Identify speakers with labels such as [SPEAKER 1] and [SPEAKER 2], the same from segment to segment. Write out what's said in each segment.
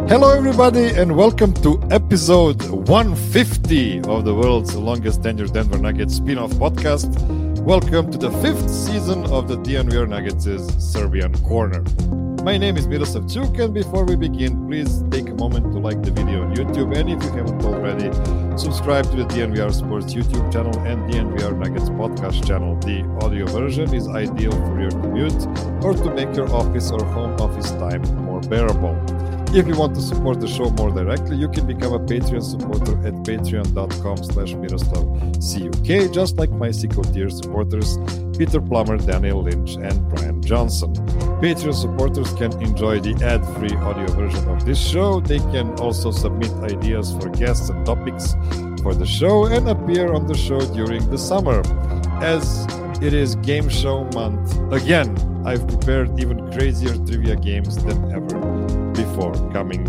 [SPEAKER 1] Hello, everybody, and welcome to episode 150 of the world's longest tenured Denver Nuggets spin-off podcast. Welcome to the fifth season of the DNVR Nuggets' Serbian Corner. My name is Miroslav Čuk, and before we begin, please take a moment to like the video on YouTube, and if you haven't already, subscribe to the DNVR Sports YouTube channel and DNVR Nuggets podcast channel. The audio version is ideal for your commute or to make your office or home office time more bearable. If you want to support the show more directly, you can become a Patreon supporter at patreon.com/MiroslavCuk, just like my Sicko tier supporters, Peter Plummer, Daniel Lynch, and Brian Johnson. Patreon supporters can enjoy the ad-free audio version of this show. They can also submit ideas for guests and topics for the show and appear on the show during the summer. As it is game show month, again, I've prepared even crazier trivia games than ever before, coming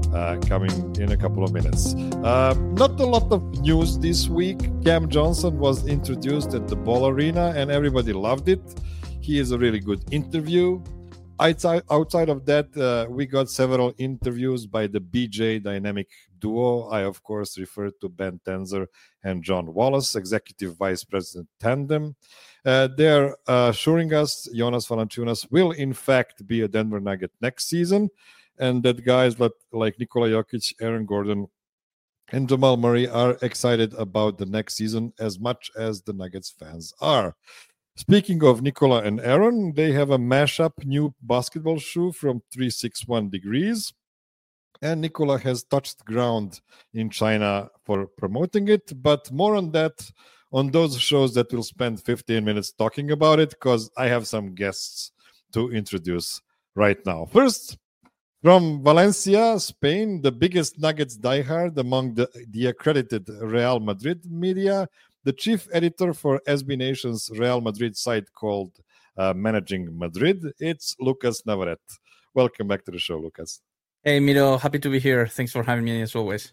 [SPEAKER 1] in a couple of minutes. Not a lot of news this week. Cam Johnson was introduced at the Ball Arena and everybody loved it. He is a really good interview. Outside of that, we got several interviews by the BJ Dynamic duo. I, of course, refer to Ben Tenzer and John Wallace, Executive Vice President Tandem. They're assuring us Jonas Valanciunas will, in fact, be a Denver Nugget next season, and that guys like Nikola Jokic, Aaron Gordon, and Jamal Murray are excited about the next season as much as the Nuggets fans are. Speaking of Nikola and Aaron, they have a mashup new basketball shoe from 361 Degrees. And Nikola has touched ground in China for promoting it. But more on that on those shows that we'll spend 15 minutes talking about it, because I have some guests to introduce right now. First, from Valencia, Spain, the biggest Nuggets diehard among the accredited Real Madrid media, the chief editor for SB Nation's Real Madrid site called Managing Madrid, it's Lucas Navarrete. Welcome back to the show, Lucas.
[SPEAKER 2] Hey, Miro, happy to be here. Thanks for having me as always.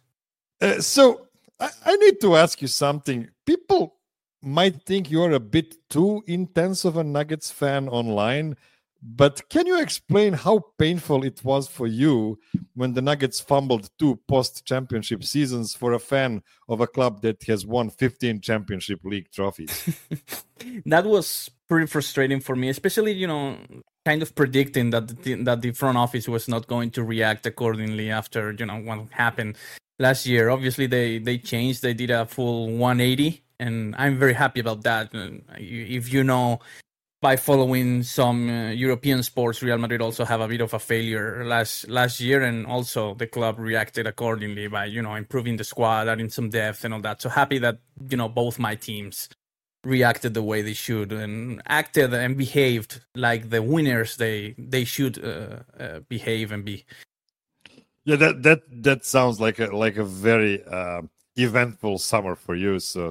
[SPEAKER 1] So I need to ask you something. People might think you're a bit too intense of a Nuggets fan online, but can you explain how painful it was for you when the Nuggets fumbled 2 post-championship seasons for a fan of a club that has won 15 championship league trophies?
[SPEAKER 2] That was pretty frustrating for me, especially, kind of predicting that the front office was not going to react accordingly after, what happened last year. Obviously, they changed. They did a full 180, and I'm very happy about that. If you know, by following some European sports, Real Madrid also have a bit of a failure last year, and also the club reacted accordingly by, improving the squad, adding some depth and all that. So happy that, both my teams reacted the way they should and acted and behaved like the winners they should behave and be.
[SPEAKER 1] Yeah, that sounds like a very eventful summer for you. So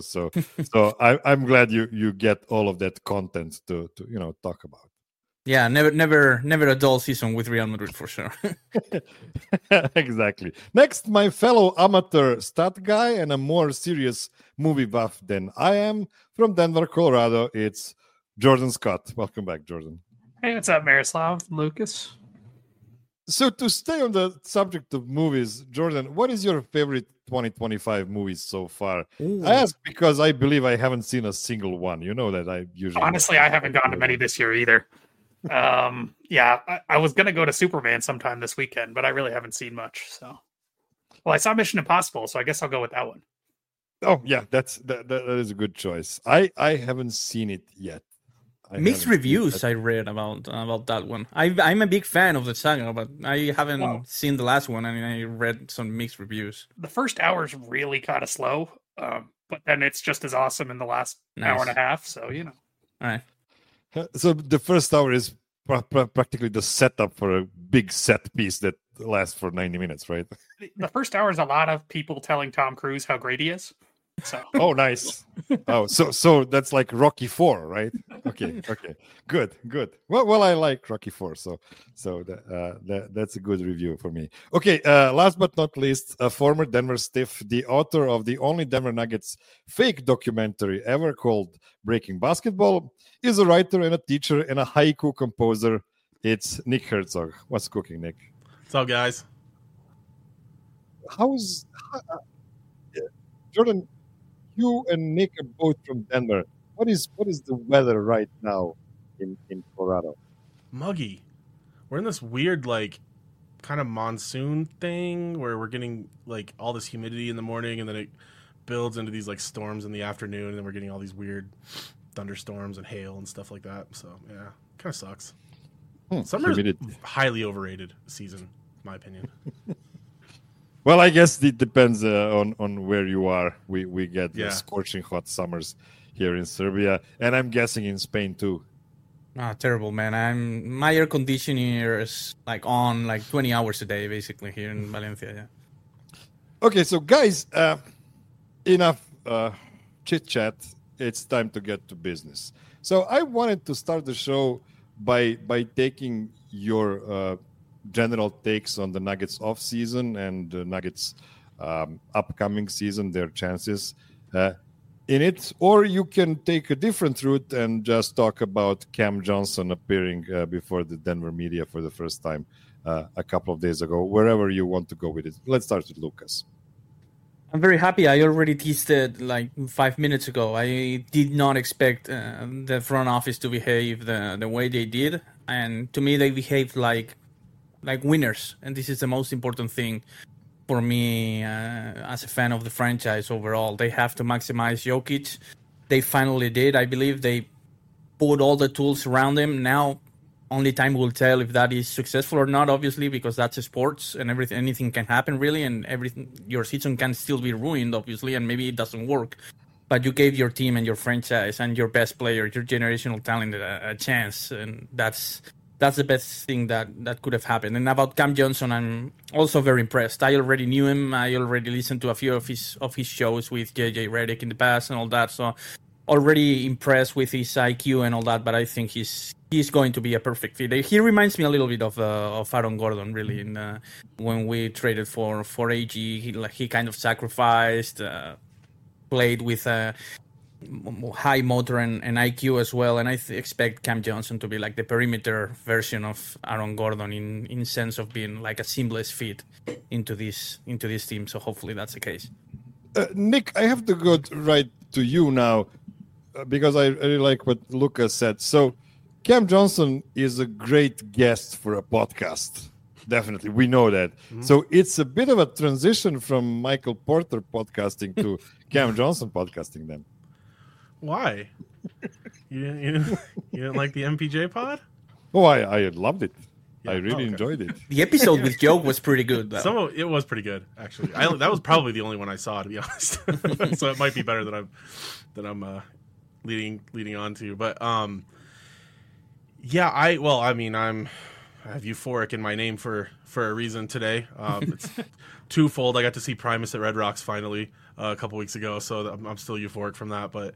[SPEAKER 1] I'm glad you get all of that content to talk about.
[SPEAKER 2] Yeah, never a dull season with Real Madrid for sure.
[SPEAKER 1] Exactly. Next, my fellow amateur stat guy and a more serious movie buff than I am, from Denver, Colorado, it's Jordan Scott. Welcome back, Jordan.
[SPEAKER 3] Hey, what's up, Miroslav? Lucas?
[SPEAKER 1] So to stay on the subject of movies, Jordan, what is your favorite 2025 movies so far? Ooh. I ask because I believe I haven't seen a single one. You know that I usually...
[SPEAKER 3] Honestly, I haven't gone to many this year either. I was going to go to Superman sometime this weekend, but I really haven't seen much. So, well, I saw Mission Impossible, so I guess I'll go with that one.
[SPEAKER 1] Oh, yeah, that is a good choice. I haven't seen it yet.
[SPEAKER 2] Mixed reviews I read about that one. I'm a big fan of the saga, but I haven't seen the last one, and I read some mixed reviews.
[SPEAKER 3] The first hour is really kind of slow, but then it's just as awesome in the last hour and a half. So
[SPEAKER 2] All right.
[SPEAKER 1] So the first hour is practically the setup for a big set piece that lasts for 90 minutes, right?
[SPEAKER 3] The first hour is a lot of people telling Tom Cruise how great he is. So.
[SPEAKER 1] Oh, nice. Oh, so that's like Rocky 4, right? Okay, good. Well, I like Rocky 4, so that's a good review for me. Okay, last but not least, a former Denver Stiff, the author of the only Denver Nuggets fake documentary ever called Breaking Basketball, is a writer and a teacher and a haiku composer. It's Nick Herzog. What's cooking, Nick?
[SPEAKER 4] What's up, guys?
[SPEAKER 1] Jordan? You and Nick are both from Denver. What is the weather right now in Colorado?
[SPEAKER 4] Muggy. We're in this weird kind of monsoon thing where we're getting all this humidity in the morning, and then it builds into these storms in the afternoon, and then we're getting all these weird thunderstorms and hail and stuff like that. So yeah, kind of sucks. Summer is highly overrated season, in my opinion.
[SPEAKER 1] Well, I guess it depends on where you are. We get scorching hot summers here in Serbia, and I'm guessing in Spain too.
[SPEAKER 2] Terrible, man. My air conditioner is on 20 hours a day, basically, here in Valencia. Yeah.
[SPEAKER 1] Okay, so guys, enough chit chat. It's time to get to business. So I wanted to start the show by taking your general takes on the Nuggets off season and the Nuggets upcoming season, their chances in it, or you can take a different route and just talk about Cam Johnson appearing before the Denver media for the first time a couple of days ago, wherever you want to go with it. Let's start with Lucas.
[SPEAKER 2] I'm very happy. I already teased it 5 minutes ago. I did not expect the front office to behave the way they did, and to me they behaved like winners, and this is the most important thing for me as a fan of the franchise overall. They have to maximize Jokic. They finally did. I believe they put all the tools around him. Now, only time will tell if that is successful or not, obviously, because that's sports and anything can happen, really, and your season can still be ruined, obviously, and maybe it doesn't work. But you gave your team and your franchise and your best player, your generational talent, a chance, and that's the best thing that could have happened. And about Cam Johnson, I'm also very impressed. I already knew him. I already listened to a few of his shows with JJ Redick in the past and all that. So already impressed with his IQ and all that. But I think he's going to be a perfect fit. He reminds me a little bit of Aaron Gordon, really. When we traded for AG, he kind of sacrificed, played with high motor and IQ as well, and I expect Cam Johnson to be the perimeter version of Aaron Gordon in sense of being a seamless fit into this team. So hopefully that's the case.
[SPEAKER 1] Nick, I have to go right to you now because I really like what Lucas said. So Cam Johnson is a great guest for a podcast. Definitely, we know that. Mm-hmm. So it's a bit of a transition from Michael Porter podcasting to Cam Johnson podcasting then.
[SPEAKER 4] Why? You didn't like the MPJ pod?
[SPEAKER 1] Oh, I loved it. Yeah, I really enjoyed it.
[SPEAKER 2] The episode with Joke was pretty good, though.
[SPEAKER 4] It was pretty good, actually. That was probably the only one I saw, to be honest. So it might be better that I'm leading on to. But yeah, I have euphoric in my name for a reason today. It's twofold. I got to see Primus at Red Rocks finally a couple weeks ago, so I'm still euphoric from that. But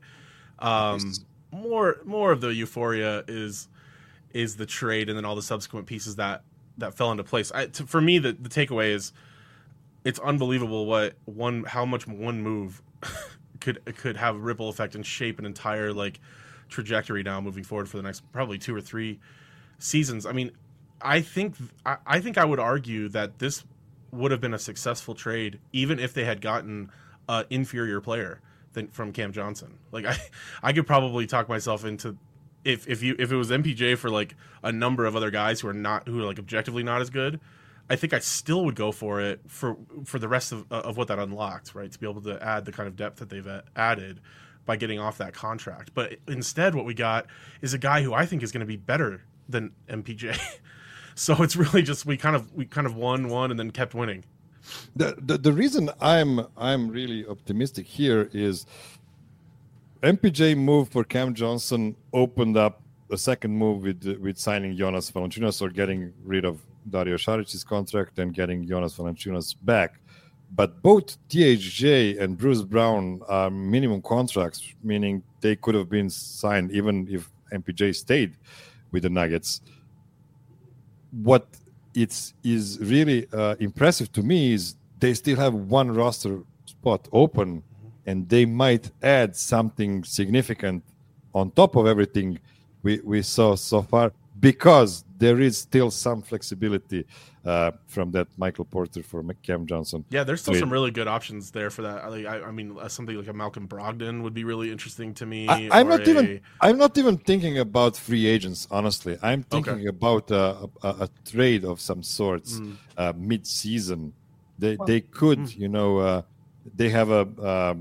[SPEAKER 4] more of the euphoria is the trade and then all the subsequent pieces that fell into place. For me, the takeaway is it's unbelievable how much one move could have a ripple effect and shape an entire trajectory now moving forward for the next probably 2 or 3 seasons. I mean, I think I would argue that this would have been a successful trade even if they had gotten an inferior player from Cam Johnson. I could probably talk myself into if it was MPJ for a number of other guys who are objectively not as good. I think I still would go for it for the rest of what that unlocked, right? To be able to add the kind of depth that they've added by getting off that contract. But instead, what we got is a guy who I think is going to be better than MPJ. So it's really just we kind of won and then kept winning.
[SPEAKER 1] The reason I'm really optimistic here is MPJ move for Cam Johnson opened up a second move with signing Jonas Valanciunas or getting rid of Dario Saric's contract and getting Jonas Valanciunas back. But both THJ and Bruce Brown are minimum contracts, meaning they could have been signed even if MPJ stayed with the Nuggets. What is really impressive to me is they still have one roster spot open, and they might add something significant on top of everything we saw so far. because there is still some flexibility from that Michael Porter for Cam Johnson.
[SPEAKER 4] Yeah, there's still
[SPEAKER 1] trade.
[SPEAKER 4] some really good options there for that. I mean, something like a Malcolm Brogdon would be really interesting to me.
[SPEAKER 1] I'm not even thinking about free agents. Honestly, I'm thinking about a trade of some sorts mid-season. They could, they have a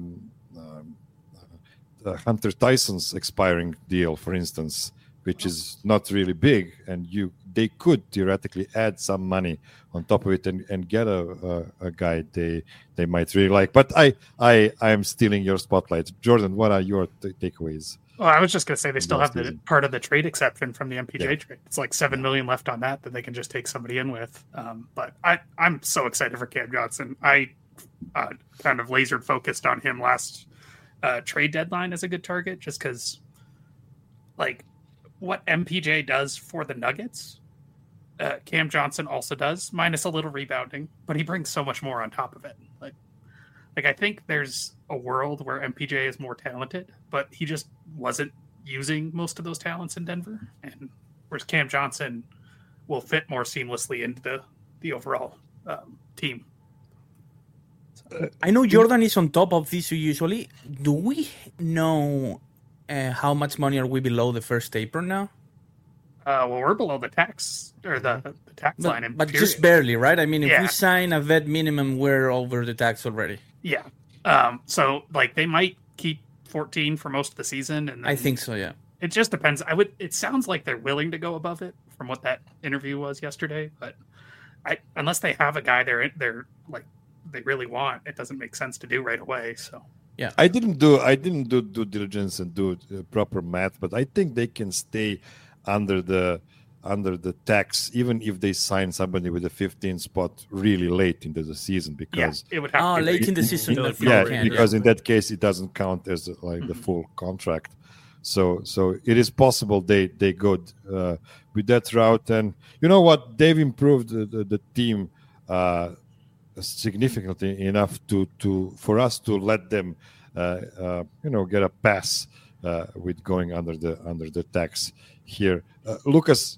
[SPEAKER 1] Hunter Tyson's expiring deal, for instance, which is not really big, and they could theoretically add some money on top of it and get a guy they might really like. But I am stealing your spotlight, Jordan. What are your takeaways?
[SPEAKER 3] Well, I was just going to say they still have the part of the trade exception from the MPJ trade. It's like $7 million left on that they can just take somebody in with. But I'm so excited for Cam Johnson. I kind of laser focused on him last trade deadline as a good target, just because, like, what MPJ does for the Nuggets, Cam Johnson also does, minus a little rebounding, but he brings so much more on top of it. Like I think there's a world where MPJ is more talented, but he just wasn't using most of those talents in Denver, and whereas Cam Johnson will fit more seamlessly into the overall team.
[SPEAKER 2] I know Jordan is on top of this usually. Do we know how much money are we below the first taper now?
[SPEAKER 3] Well, we're below the tax or the tax line,
[SPEAKER 2] but just barely, right? I mean, if
[SPEAKER 3] Yeah.
[SPEAKER 2] we sign a vet minimum, we're over the tax already.
[SPEAKER 3] Yeah. So like they might keep 14 for most of the season, and then
[SPEAKER 2] I think so. Yeah.
[SPEAKER 3] it just depends. It sounds like they're willing to go above it from what that interview was yesterday, but unless they have a guy they're like they really want, it doesn't make sense to do right away. So
[SPEAKER 2] yeah,
[SPEAKER 1] I didn't do due diligence and do proper math, but I think they can stay under the tax even if they sign somebody with a 15 spot really late into the season, because
[SPEAKER 3] it would have to be
[SPEAKER 2] late in the season.
[SPEAKER 1] because in that case it doesn't count as like the full contract. So it is possible they go with that route. And you know what, they've improved the team significantly enough for us to let them get a pass with going under the tax here. Lucas,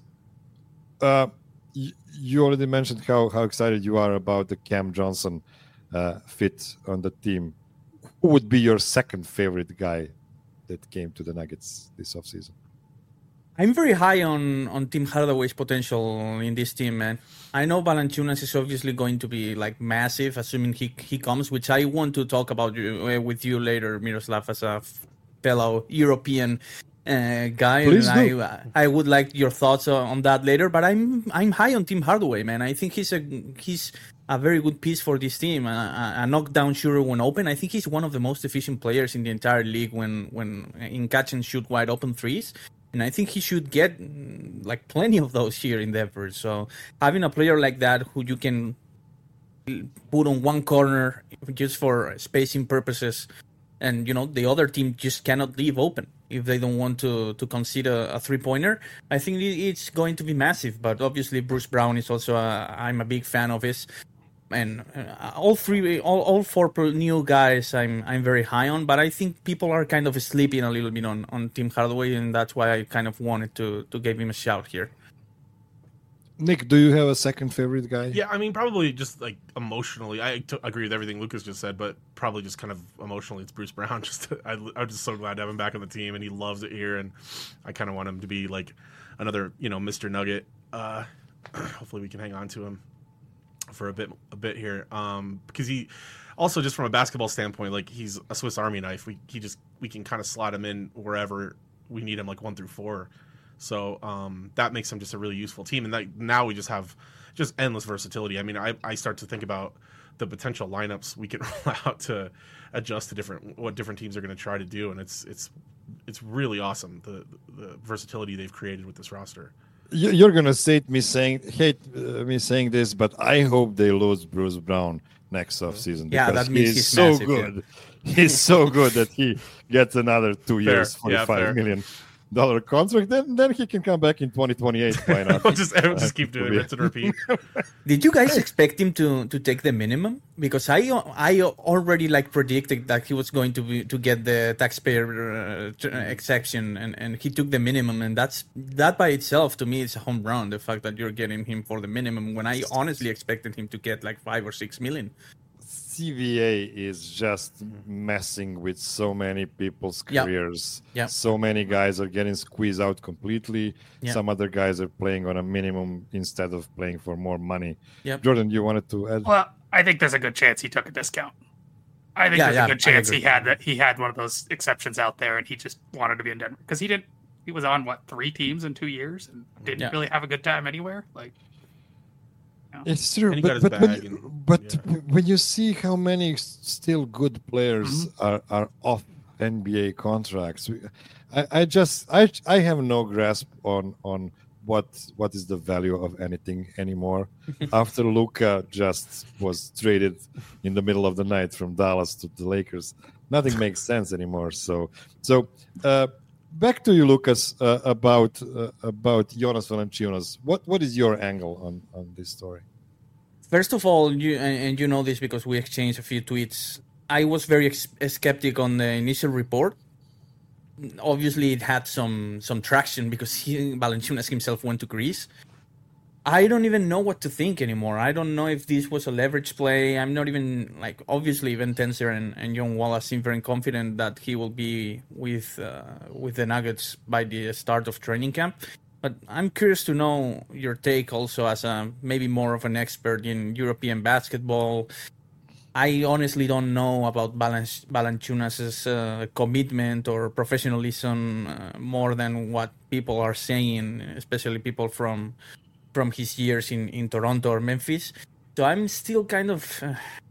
[SPEAKER 1] you already mentioned how excited you are about the Cam Johnson fit on the team. Who would be your second favorite guy that came to the Nuggets this offseason?
[SPEAKER 2] I'm very high on Tim Hardaway's potential in this team, man. I know Valanciunas is obviously going to be like massive, assuming he comes, which I want to talk about with you later, Miroslav, as a fellow European guy.
[SPEAKER 1] Please
[SPEAKER 2] and
[SPEAKER 1] do.
[SPEAKER 2] I would like your thoughts on that later. But I'm high on Tim Hardaway, man. I think he's a very good piece for this team. A knockdown shooter when open. I think he's one of the most efficient players in the entire league when in catch and shoot wide open threes. And I think he should get like plenty of those here in Denver. So having a player like that who you can put on one corner just for spacing purposes, and the other team just cannot leave open if they don't want to concede a three-pointer, I think it's going to be massive. But obviously Bruce Brown is also I'm a big fan of his. And all four new guys I'm very high on, but I think people are kind of sleeping a little bit on Tim Hardaway, and that's why I kind of wanted to give him a shout here.
[SPEAKER 1] Nick, do you have a second favorite guy?
[SPEAKER 4] Yeah, I mean, probably just like emotionally. I agree with everything Lucas just said, but probably just kind of emotionally, it's Bruce Brown. I'm just so glad to have him back on the team, and he loves it here, and I kind of want him to be like another, Mr. Nugget. Hopefully we can hang on to him for a bit here, because he also, just from a basketball standpoint, like he's a Swiss Army knife. We can kind of slot him in wherever we need him, like 1 through 4. So that makes him just a really useful team, and now we just have just endless versatility. I mean, I start to think about the potential lineups we can roll out to adjust to what different teams are going to try to do, and it's really awesome the versatility they've created with this roster.
[SPEAKER 1] You're gonna hate me saying this, but I hope they lose Bruce Brown next offseason.
[SPEAKER 2] Yeah, that means he's
[SPEAKER 1] so
[SPEAKER 2] massive,
[SPEAKER 1] good. Yeah. He's so good that he gets another 2 years,
[SPEAKER 4] Fair.
[SPEAKER 1] $45 million. contract, then he can come back in 2028. Why not?
[SPEAKER 4] I'll just keep doing rinse and repeat.
[SPEAKER 2] Did you guys expect him to take the minimum? Because I already predicted that he was going to get the taxpayer exception, and he took the minimum, and that by itself to me is a home run. The fact that you're getting him for the minimum when I honestly expected him to get like 5 or 6 million.
[SPEAKER 1] CBA is just messing with so many people's careers.
[SPEAKER 2] Yeah.
[SPEAKER 1] So many guys are getting squeezed out completely.
[SPEAKER 2] Yeah.
[SPEAKER 1] Some other guys are playing on a minimum instead of playing for more money.
[SPEAKER 2] Yep.
[SPEAKER 1] Jordan, you wanted to add?
[SPEAKER 3] Well, I think there's a good chance he took a discount. I think there's a good chance he had one of those exceptions out there, and he just wanted to be in Denver because he was on 3 teams in 2 years and didn't really have a good time anywhere. Like,
[SPEAKER 1] it's true, but when you see how many still good players are off NBA contracts, I have no grasp on what is the value of anything anymore. After Luka just was traded in the middle of the night from Dallas to the Lakers, nothing makes sense anymore. So back to you, Lucas, about Jonas Valanciunas. What is your angle on this story?
[SPEAKER 2] First of all, you know this because we exchanged a few tweets. I was very skeptic on the initial report. Obviously, it had some traction because Valanciunas himself went to Greece. I don't even know what to think anymore. I don't know if this was a leverage play. I'm not even obviously even Tenser and John Wallace seem very confident that he will be with the Nuggets by the start of training camp. But I'm curious to know your take also as maybe more of an expert in European basketball. I honestly don't know about Valanciunas' commitment or professionalism more than what people are saying, especially people from his years in Toronto or Memphis. So I'm still kind of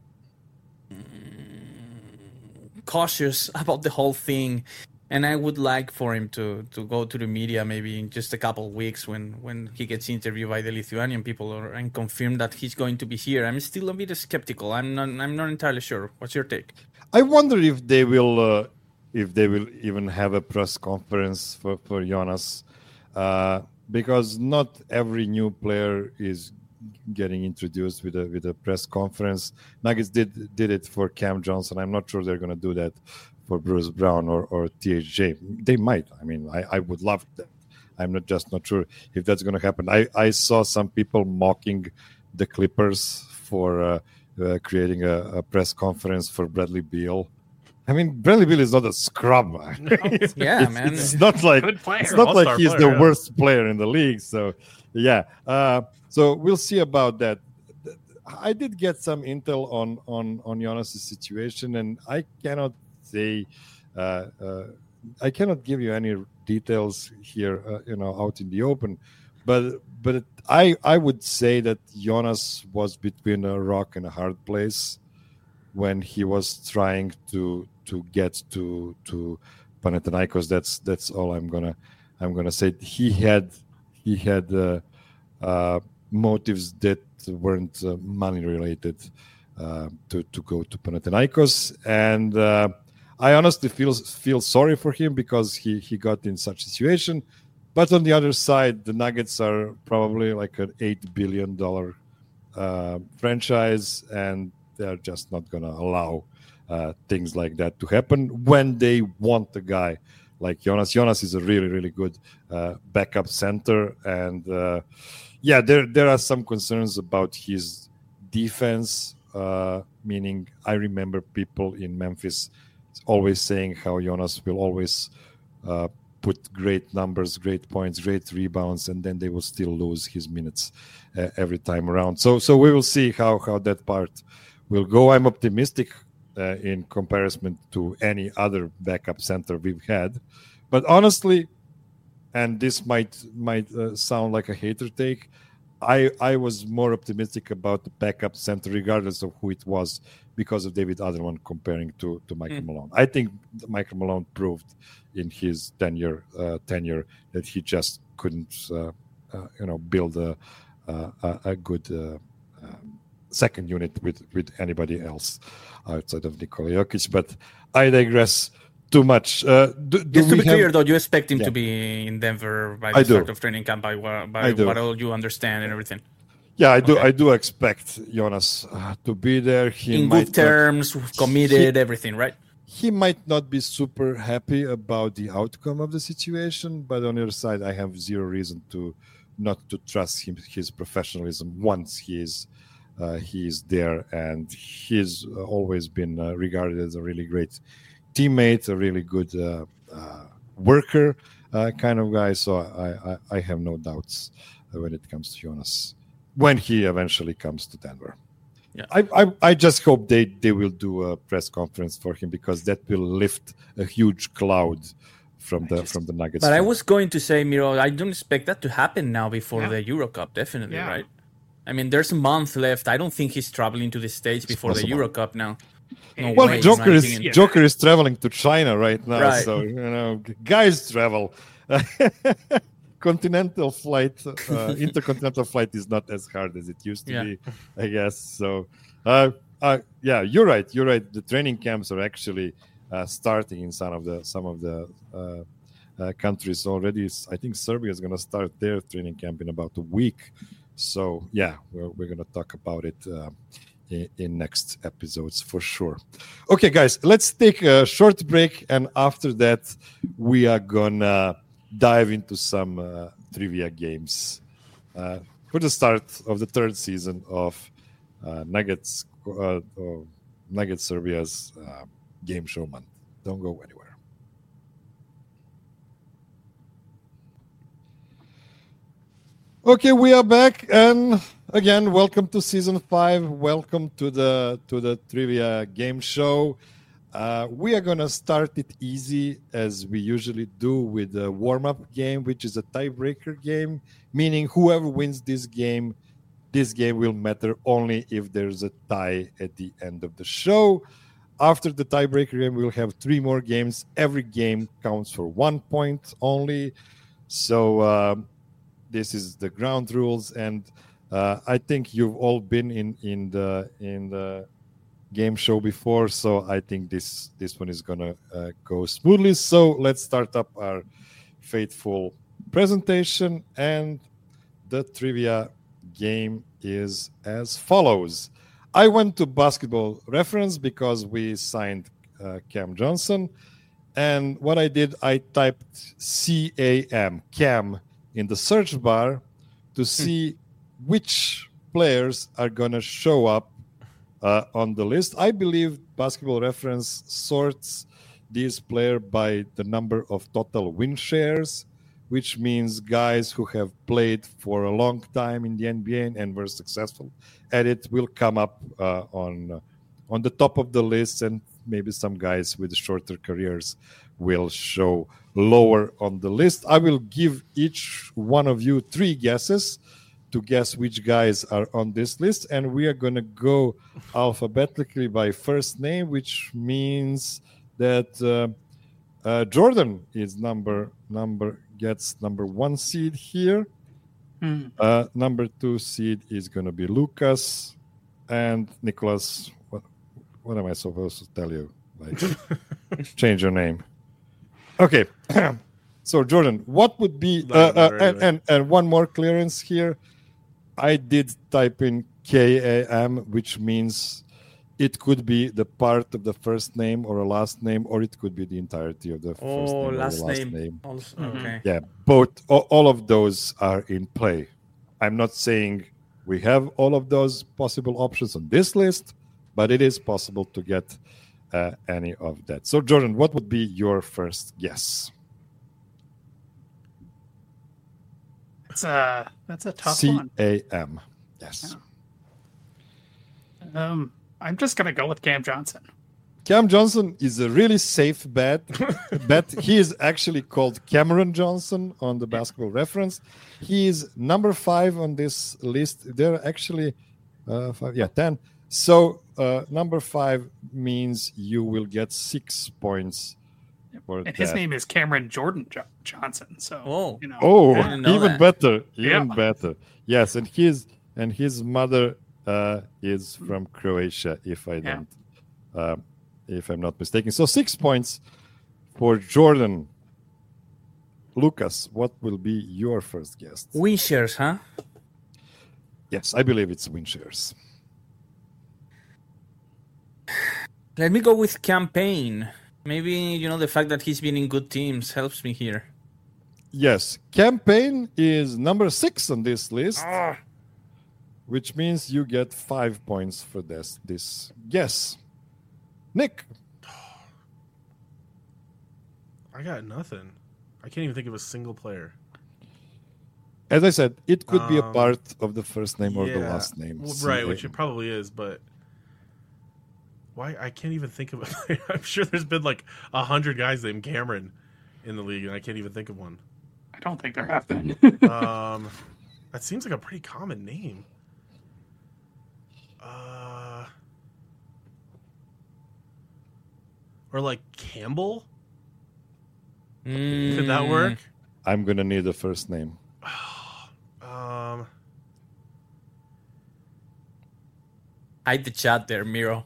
[SPEAKER 2] cautious about the whole thing. And I would like for him to go to the media maybe in just a couple of weeks when he gets interviewed by the Lithuanian people and confirm that he's going to be here. I'm still a bit skeptical. I'm not entirely sure. What's your take?
[SPEAKER 1] I wonder if they will even have a press conference for Jonas, because not every new player is getting introduced with a press conference. Nuggets did it for Cam Johnson. I'm not sure they're going to do that for Bruce Brown or THJ. They might. I mean, I would love that. I'm not sure if that's going to happen. I saw some people mocking the Clippers for creating a press conference for Bradley Beal. I mean, Bradley Beal is not a scrub.
[SPEAKER 2] Man.
[SPEAKER 1] It's not like he's the worst player in the league. So, yeah. So we'll see about that. I did get some intel on Jonas' situation, and I cannot say I cannot give you any details here, out in the open, but I would say that Jonas was between a rock and a hard place when he was trying to get to Panathinaikos. That's all I'm gonna say. He had motives that weren't money related to go to Panathinaikos, and I honestly feel sorry for him because he got in such a situation. But on the other side, the Nuggets are probably like an $8 billion franchise, and they're just not going to allow things like that to happen when they want a guy like Jonas. Jonas is a really, really good backup center, and there are some concerns about his defense, meaning I remember people in Memphis always saying how Jonas will always put great numbers, great points, great rebounds, and then they will still lose his minutes every time around. So we will see how that part will go. I'm optimistic in comparison to any other backup center we've had. But honestly, and this might sound like a hater take, I was more optimistic about the backup center, regardless of who it was, because of David Adelman comparing to Michael Malone. I think Michael Malone proved in his tenure that he just couldn't, build a good second unit with anybody else outside of Nikola Jokic. But I digress. too much.
[SPEAKER 2] Just to be clear, though, you expect him to be in Denver by the start of training camp, by what all you understand and everything.
[SPEAKER 1] Yeah, I do. Okay. I do expect Jonas to be there.
[SPEAKER 2] In good terms, committed, everything, right?
[SPEAKER 1] He might not be super happy about the outcome of the situation, but on the other side, I have zero reason to not to trust his professionalism once he is there, and he's always been regarded as a really great teammate, a really good worker kind of guy. So I have no doubts when it comes to Jonas when he eventually comes to Denver.
[SPEAKER 2] Yeah.
[SPEAKER 1] I just hope they will do a press conference for him, because that will lift a huge cloud from the Nuggets.
[SPEAKER 2] But I was going to say, Miro, I don't expect that to happen now before the Euro Cup, definitely, right? I mean, there's a month left. I don't think he's traveling to the States before the Euro Cup now.
[SPEAKER 1] No way, Joker is traveling to China right now, right. So guys travel. Continental flight, intercontinental flight is not as hard as it used to be, I guess. So, you're right. The training camps are actually starting in some of the countries already. I think Serbia is going to start their training camp in about a week. So, we're going to talk about it in next episodes for sure. Okay, guys, let's take a short break, and after that, we are gonna dive into some trivia games for the start of the third season of Nuggets Serbia's game show month. Don't go anywhere. Okay, we are back, and again, welcome to season 5. Welcome to the trivia game show. We are going to start it easy, as we usually do, with a warm-up game, which is a tiebreaker game, meaning whoever wins this game will matter only if there's a tie at the end of the show. After the tiebreaker game, we'll have 3 more games. Every game counts for 1 point only. So this is the ground rules, and I think you've all been in the game show before, so I think this one is gonna go smoothly. So let's start up our faithful presentation, and the trivia game is as follows. I went to Basketball Reference because we signed Cam Johnson, and what I did, I typed Cam in the search bar to see which players are gonna show up on the list. I believe Basketball Reference sorts these players by the number of total win shares, which means guys who have played for a long time in the NBA and were successful at it will come up on the top of the list, and maybe some guys with shorter careers will show lower on the list. I will give each one of you 3 guesses to guess which guys are on this list, and we are going to go alphabetically by first name, which means that Jordan is gets number 1 seed here. Number 2 seed is going to be Lucas, and Nicholas. What am I supposed to tell you? Like, change your name. Okay. So Jordan, what would be and one more clearance here? I did type in KAM, which means it could be the part of the first name or a last name, or it could be the entirety of the first name or the last name.
[SPEAKER 2] Also, okay.
[SPEAKER 1] Yeah, all of those are in play. I'm not saying we have all of those possible options on this list, but it is possible to get any of that. So Jordan, what would be your first guess?
[SPEAKER 3] That's a tough one.
[SPEAKER 1] CAM. Yes.
[SPEAKER 3] I'm just gonna go with Cam Johnson.
[SPEAKER 1] Cam Johnson is a really safe bet. He is actually called Cameron Johnson on the Basketball Reference. He is number 5 on this list. There are actually 10. So number 5 means you will get 6 points.
[SPEAKER 3] And his name is Cameron Jordan Johnson. So
[SPEAKER 1] even better, better. Yes, and his mother is from Croatia, if I'm not mistaken. So 6 points for Jordan. Lucas, what will be your first guess?
[SPEAKER 2] Win shares, huh?
[SPEAKER 1] Yes, I believe it's win shares.
[SPEAKER 2] Let me go with campaign. Maybe, the fact that he's been in good teams helps me here.
[SPEAKER 1] Yes, campaign is number 6 on this list, which means you get 5 points for this guess. Nick?
[SPEAKER 4] I got nothing. I can't even think of a single player.
[SPEAKER 1] As I said, it could be a part of the first name or the last name.
[SPEAKER 4] Right, which it probably is, but why? I can't even think of a player. I'm sure there's been like 100 guys named Cameron in the league, and I can't even think of one.
[SPEAKER 3] I don't think there have been.
[SPEAKER 4] That seems like a pretty common name. Or like Campbell? Could that work?
[SPEAKER 1] I'm going to need a first name.
[SPEAKER 2] Hide the chat there, Miro.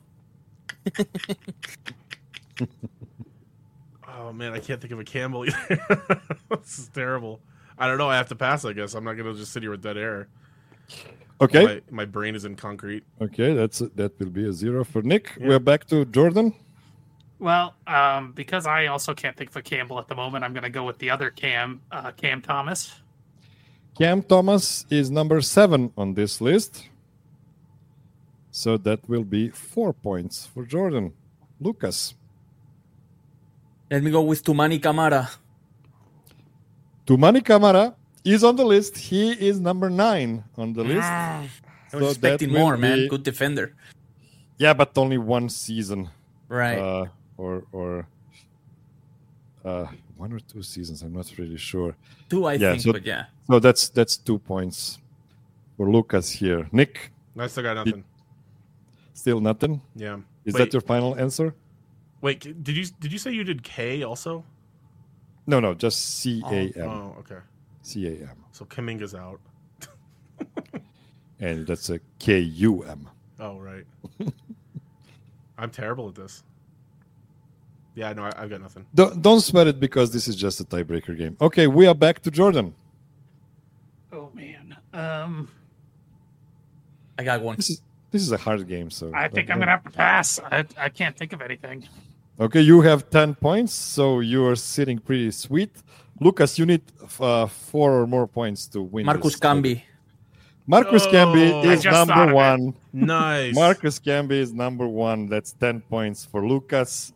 [SPEAKER 4] Oh, man, I can't think of a Campbell either. This is terrible. I don't know. I have to pass, I guess. I'm not going to just sit here with dead air.
[SPEAKER 1] Okay.
[SPEAKER 4] My brain is in concrete.
[SPEAKER 1] Okay, that will be a 0 for Nick. Yeah. We're back to Jordan.
[SPEAKER 3] Well, because I also can't think of a Campbell at the moment, I'm going to go with the other Cam Thomas.
[SPEAKER 1] Cam Thomas is number 7 on this list. So that will be 4 points for Jordan. Lucas.
[SPEAKER 2] Let me go with Toumani Camara.
[SPEAKER 1] Toumani Camara is on the list. He is number 9 on the list.
[SPEAKER 2] I was expecting more, man. Good defender.
[SPEAKER 1] Yeah, but only one season.
[SPEAKER 2] Right.
[SPEAKER 1] Or 1 or 2 seasons. I'm not really sure.
[SPEAKER 2] 2, I think, but yeah.
[SPEAKER 1] So that's 2 points for Lucas here. Nick?
[SPEAKER 4] I still got nothing.
[SPEAKER 1] Still nothing?
[SPEAKER 4] Yeah.
[SPEAKER 1] Is that your final answer?
[SPEAKER 4] Wait, did you say you did K also?
[SPEAKER 1] No, just CAM.
[SPEAKER 4] Oh, okay.
[SPEAKER 1] CAM.
[SPEAKER 4] So Kaminga's out.
[SPEAKER 1] And that's a KUM.
[SPEAKER 4] Oh, right. I'm terrible at this. Yeah, no, I've got nothing.
[SPEAKER 1] Don't sweat it because this is just a tiebreaker game. Okay, we are back to Jordan.
[SPEAKER 3] Oh, man.
[SPEAKER 2] I got one.
[SPEAKER 1] This is a hard game, so
[SPEAKER 3] I think I'm going to have to pass. I can't think of anything.
[SPEAKER 1] Okay, you have 10 points, so you're sitting pretty sweet. Lucas, you need 4 or more points to win.
[SPEAKER 2] Marcus Camby.
[SPEAKER 1] Marcus Camby is number 1.
[SPEAKER 4] Nice.
[SPEAKER 1] Marcus Camby is number 1. That's 10 points for Lucas.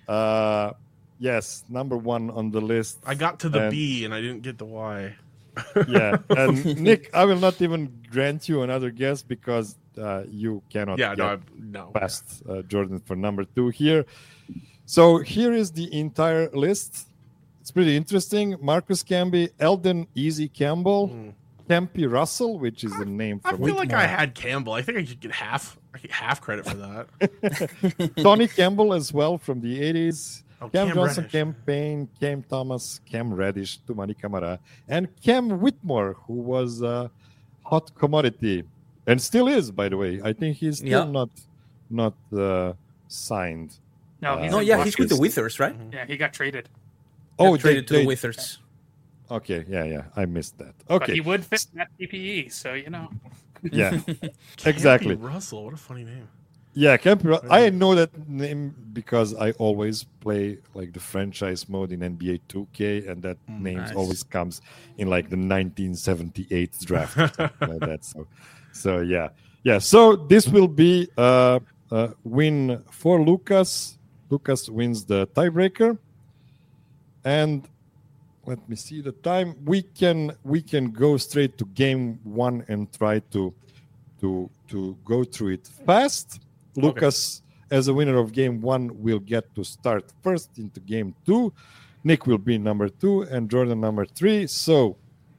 [SPEAKER 1] Yes, number 1 on the list.
[SPEAKER 4] I got to the B and I didn't get the Y.
[SPEAKER 1] Yeah, and Nick, I will not even grant you another guess because you cannot get past Jordan for number 2 here. So here is the entire list. It's pretty interesting. Marcus Camby, Eldon Easy Campbell, Tempe Russell, which is a name for
[SPEAKER 4] I feel like I had Campbell. I think I could get half credit for that.
[SPEAKER 1] Tony Campbell as well from the 80s. Cam Johnson,
[SPEAKER 4] Reddish.
[SPEAKER 1] Cam Payne, Cam Thomas, Cam Reddish, Toumani Camara, and Cam Whitmore, who was a hot commodity and still is, by the way. I think he's still not signed.
[SPEAKER 3] No,
[SPEAKER 2] he's with the Withers, right?
[SPEAKER 3] Yeah, he got traded.
[SPEAKER 2] Traded to the Withers.
[SPEAKER 1] Okay, yeah, I missed that. Okay,
[SPEAKER 3] but he would fit that PPE, so
[SPEAKER 1] Yeah, exactly.
[SPEAKER 4] Russell, what a funny name.
[SPEAKER 1] Yeah, Campy. I know that name because I always play like the franchise mode in NBA 2K, and that name always comes in like the 1978 draft, like that. So yeah. So this will be a win for Lucas. Lucas wins the tiebreaker, and let me see the time. We can go straight to game 1 and try to go through it fast. Lucas, as a winner of game 1, will get to start first into game 2. Nick will be number 2 and Jordan number 3. So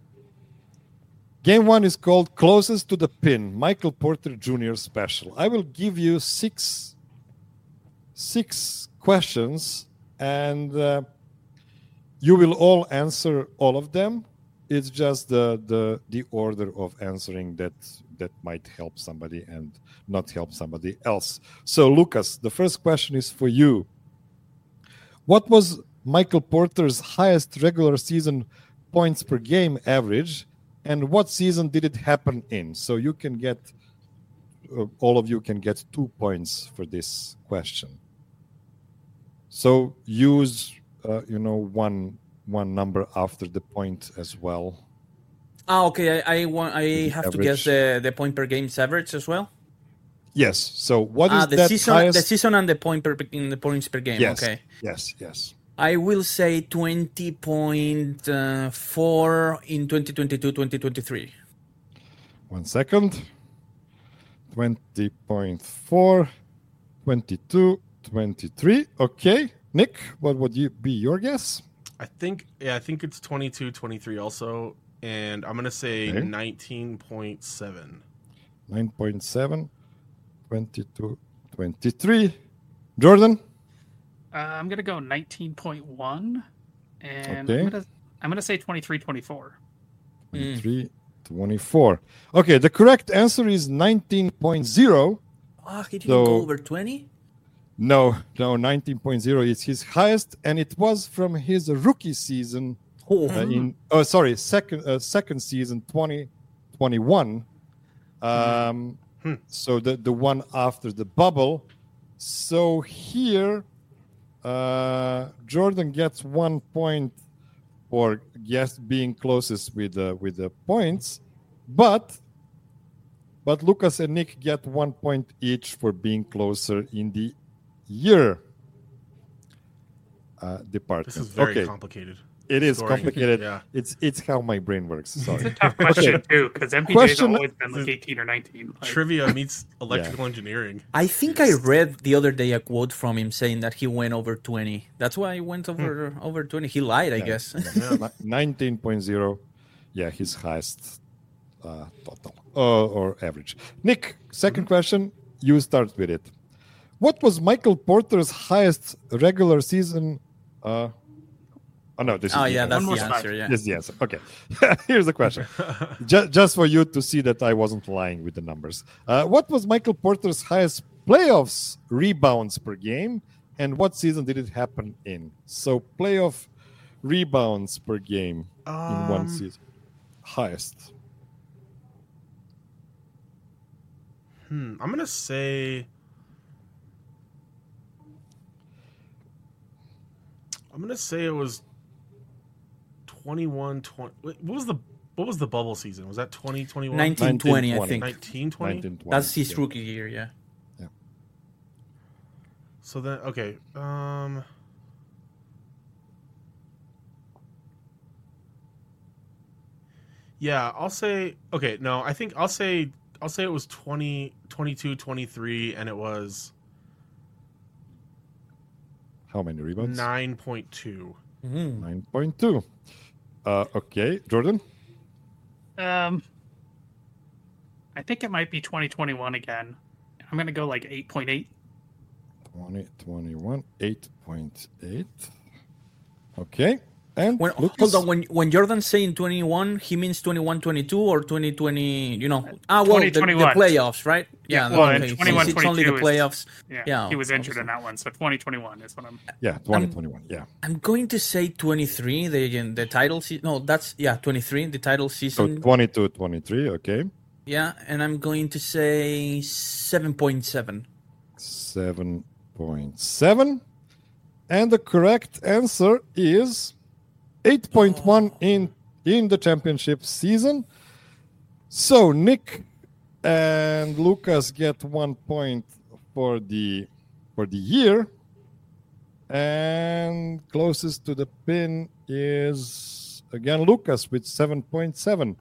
[SPEAKER 1] game 1 is called Closest to the Pin, Michael Porter Jr. Special. I will give you six questions, and you will all answer all of them. It's just the order of answering that might help somebody and not help somebody else. So, Lucas, the first question is for you. What was Michael Porter's highest regular season points per game average, and what season did it happen in? So you can get, all of you can get 2 points for this question. So use, one number after the point as well.
[SPEAKER 2] Okay. I have to guess the point per game's average as well.
[SPEAKER 1] Yes. So what is
[SPEAKER 2] the
[SPEAKER 1] that
[SPEAKER 2] season?
[SPEAKER 1] highest?
[SPEAKER 2] The season and the points per game.
[SPEAKER 1] Yes.
[SPEAKER 2] Okay.
[SPEAKER 1] Yes.
[SPEAKER 2] I will say 20.4 in 2022-2023.
[SPEAKER 1] 1 second. 20.4, 22-23. Okay. Nick, what would be your guess?
[SPEAKER 4] I think it's 22-23 also, and I'm gonna say 19.7.
[SPEAKER 1] 9.7, 22-23. Jordan?
[SPEAKER 3] I'm gonna go 19.1, and
[SPEAKER 1] Okay.
[SPEAKER 3] I'm gonna say 23-24.
[SPEAKER 1] 23-24. Okay, the correct answer is 19.0.
[SPEAKER 2] He didn't go over 20?
[SPEAKER 1] No, 19.0 is his highest, and it was from his rookie season second season 2021. So the one after the bubble. So here Jordan gets 1 point for being closest with the points, but Lucas and Nick get 1 point each for being closer in the year department.
[SPEAKER 4] This is very complicated.
[SPEAKER 1] It is
[SPEAKER 4] story.
[SPEAKER 1] complicated.
[SPEAKER 4] Yeah.
[SPEAKER 1] It's how my brain works. Sorry.
[SPEAKER 3] It's a tough question too, because MPJ's always been like 18 or 19.
[SPEAKER 4] Trivia meets electrical engineering.
[SPEAKER 2] I think I read the other day a quote from him saying that he went over 20. That's why he went over 20. He lied, I guess.
[SPEAKER 1] 19.0. Yeah, his highest total or average. Nick, second question. You start with it. What was Michael Porter's highest regular season? This is
[SPEAKER 2] that's the answer. Yeah,
[SPEAKER 1] this is the answer. Okay, here's the question. Just for you to see that I wasn't lying with the numbers. What was Michael Porter's highest playoffs rebounds per game, and what season did it happen in? So playoff rebounds per game in one season, highest.
[SPEAKER 4] I'm gonna say. It was 21-20. What was the bubble season? Was that 2021?
[SPEAKER 2] 1920, I think.
[SPEAKER 4] 1920?
[SPEAKER 2] That's his rookie year, yeah.
[SPEAKER 4] So then, okay. Yeah, I'll say. Okay, no, I think I'll say it was 22-23, and it was.
[SPEAKER 1] How many rebounds?
[SPEAKER 4] 9.2.
[SPEAKER 1] 9.2. Okay, Jordan?
[SPEAKER 3] I think it might be 2021 again. I'm going to go like 8.8.
[SPEAKER 1] 2021, 8.8. Okay. And
[SPEAKER 2] hold on, when Jordan's saying 21, he means 21-22 or 2020, the playoffs, right?
[SPEAKER 3] Yeah, okay. 21-22
[SPEAKER 2] it's only the playoffs.
[SPEAKER 3] Yeah, he was injured in that one, so 2021 is what I'm...
[SPEAKER 1] Yeah, 2021,
[SPEAKER 2] I'm going to say 23, the title season. No, that's, 23, the title season.
[SPEAKER 1] So 22-23, okay.
[SPEAKER 2] Yeah, and I'm going to say 7.7.
[SPEAKER 1] 7.7. And the correct answer is 8.1 in the championship season. So Nick and Lucas get 1 point for the year, and closest to the pin is again Lucas with 7.7.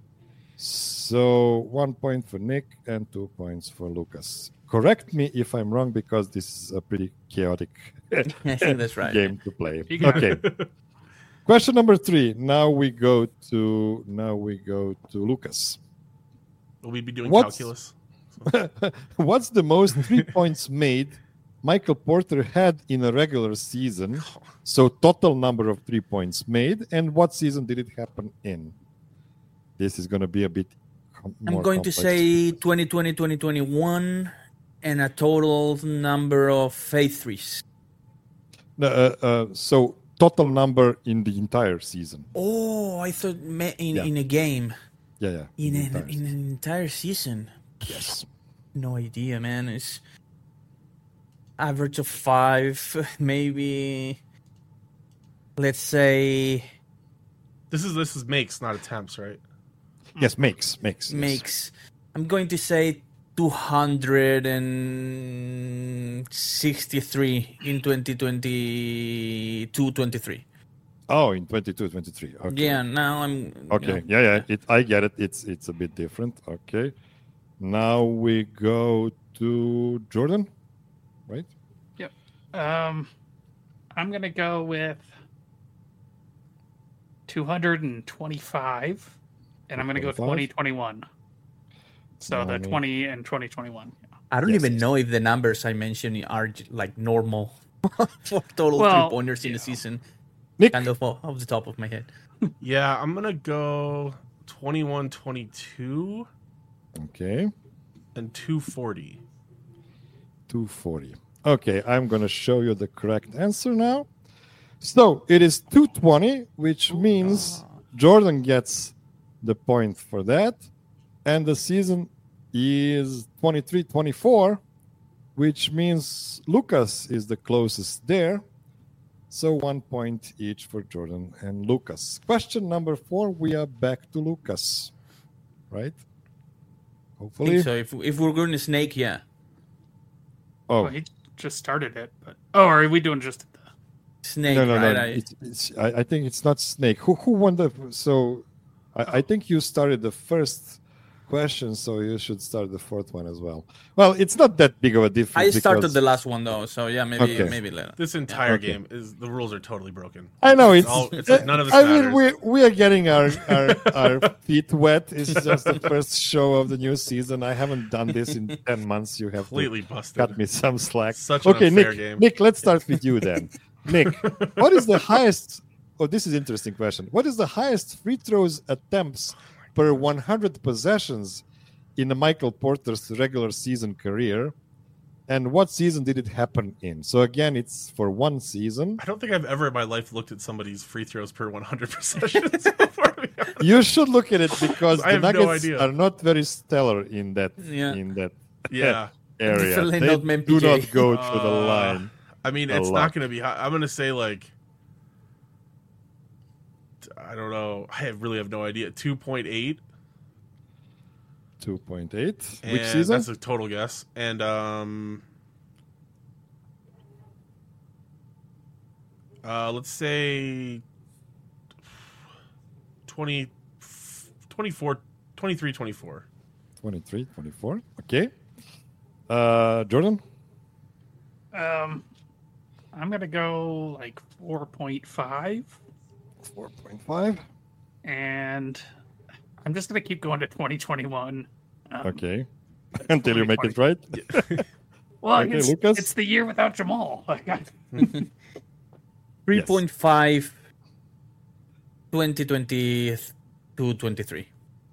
[SPEAKER 1] So 1 point for Nick and 2 points for Lucas. Correct me if I'm wrong, because this is a pretty chaotic
[SPEAKER 2] I think that's right.
[SPEAKER 1] game to play. Okay. Question number 3. Now we go to Lucas.
[SPEAKER 4] Will we be doing calculus?
[SPEAKER 1] What's the most 3 points made Michael Porter had in a regular season? So total number of 3 points made, and what season did it happen in? This is going to be a bit more
[SPEAKER 2] I'm going
[SPEAKER 1] complex.
[SPEAKER 2] to say 2020, 2021, and a total number of 8 threes.
[SPEAKER 1] So total number in the entire season.
[SPEAKER 2] Oh, I thought in a game.
[SPEAKER 1] Yeah.
[SPEAKER 2] In an entire season.
[SPEAKER 1] Yes.
[SPEAKER 2] No idea, man. It's average of 5, maybe. Let's say
[SPEAKER 4] This is makes, not attempts, right?
[SPEAKER 1] Yes, makes.
[SPEAKER 2] Makes. I'm going to say 263 in 2022-23.
[SPEAKER 1] Oh, in 22-23. Okay.
[SPEAKER 2] Yeah, now I'm...
[SPEAKER 1] Okay, yeah. I get it. It's a bit different. Okay. Now we go to Jordan, right?
[SPEAKER 3] Yep. I'm going to go with 225, and I'm going to go 2021. So the 20 and 2021.
[SPEAKER 2] I don't even know if the numbers I mentioned are like normal for total 3-pointers in the season.
[SPEAKER 1] Nick?
[SPEAKER 2] Kind of off the top of my head.
[SPEAKER 4] Yeah, I'm going to go 21-22.
[SPEAKER 1] Okay.
[SPEAKER 4] And 240.
[SPEAKER 1] 240. Okay, I'm going to show you the correct answer now. So it is 220, which means Jordan gets the point for that. And the season is 23-24, which means Lucas is the closest there. So 1 point each for Jordan and Lucas. Question number 4, we are back to Lucas, right? Hopefully.
[SPEAKER 2] So if we're going to snake, yeah.
[SPEAKER 1] Oh,
[SPEAKER 3] well, he just started it, but are we doing just the
[SPEAKER 2] snake?
[SPEAKER 1] No.
[SPEAKER 2] Right?
[SPEAKER 1] I think it's not snake. Who won the? So I think you started the first question, so you should start the fourth one as well. Well, it's not that big of a difference.
[SPEAKER 2] I started the last one though, so yeah, maybe later.
[SPEAKER 4] This entire game is the rules are totally broken.
[SPEAKER 1] I know
[SPEAKER 4] it's like none of this matters.
[SPEAKER 1] mean, we are getting our feet wet. It's just the first show of the new season. I haven't done this in 10 months. You have
[SPEAKER 4] completely busted.
[SPEAKER 1] Cut me some slack.
[SPEAKER 4] Such an unfair game.
[SPEAKER 1] Nick, let's start with you then. Nick, what is the highest? Oh, this is an interesting question. What is the highest free throws attempts per 100 possessions in the Michael Porter's regular season career, and what season did it happen in? So again, it's for one season.
[SPEAKER 4] I don't think I've ever in my life looked at somebody's free throws per 100 possessions before.
[SPEAKER 1] You should look at it because
[SPEAKER 4] I
[SPEAKER 1] the
[SPEAKER 4] have
[SPEAKER 1] Nuggets
[SPEAKER 4] no
[SPEAKER 1] are not very stellar in that area. They do not go to the line.
[SPEAKER 4] I mean, it's not going to be high. I'm going to say like, I don't know. I really have no idea. 2.8.
[SPEAKER 1] 2.8. Which season?
[SPEAKER 4] That's a total guess. And let's say 23, 24.
[SPEAKER 1] 23, 24. Okay. Jordan?
[SPEAKER 3] I'm going to go like 4.5.
[SPEAKER 1] 4.5.
[SPEAKER 3] And I'm just going to keep going to 2021.
[SPEAKER 1] Okay. Until you make it right.
[SPEAKER 3] Well,
[SPEAKER 1] okay, Lucas?
[SPEAKER 3] It's the year without Jamal.
[SPEAKER 2] 3.5 2022-23.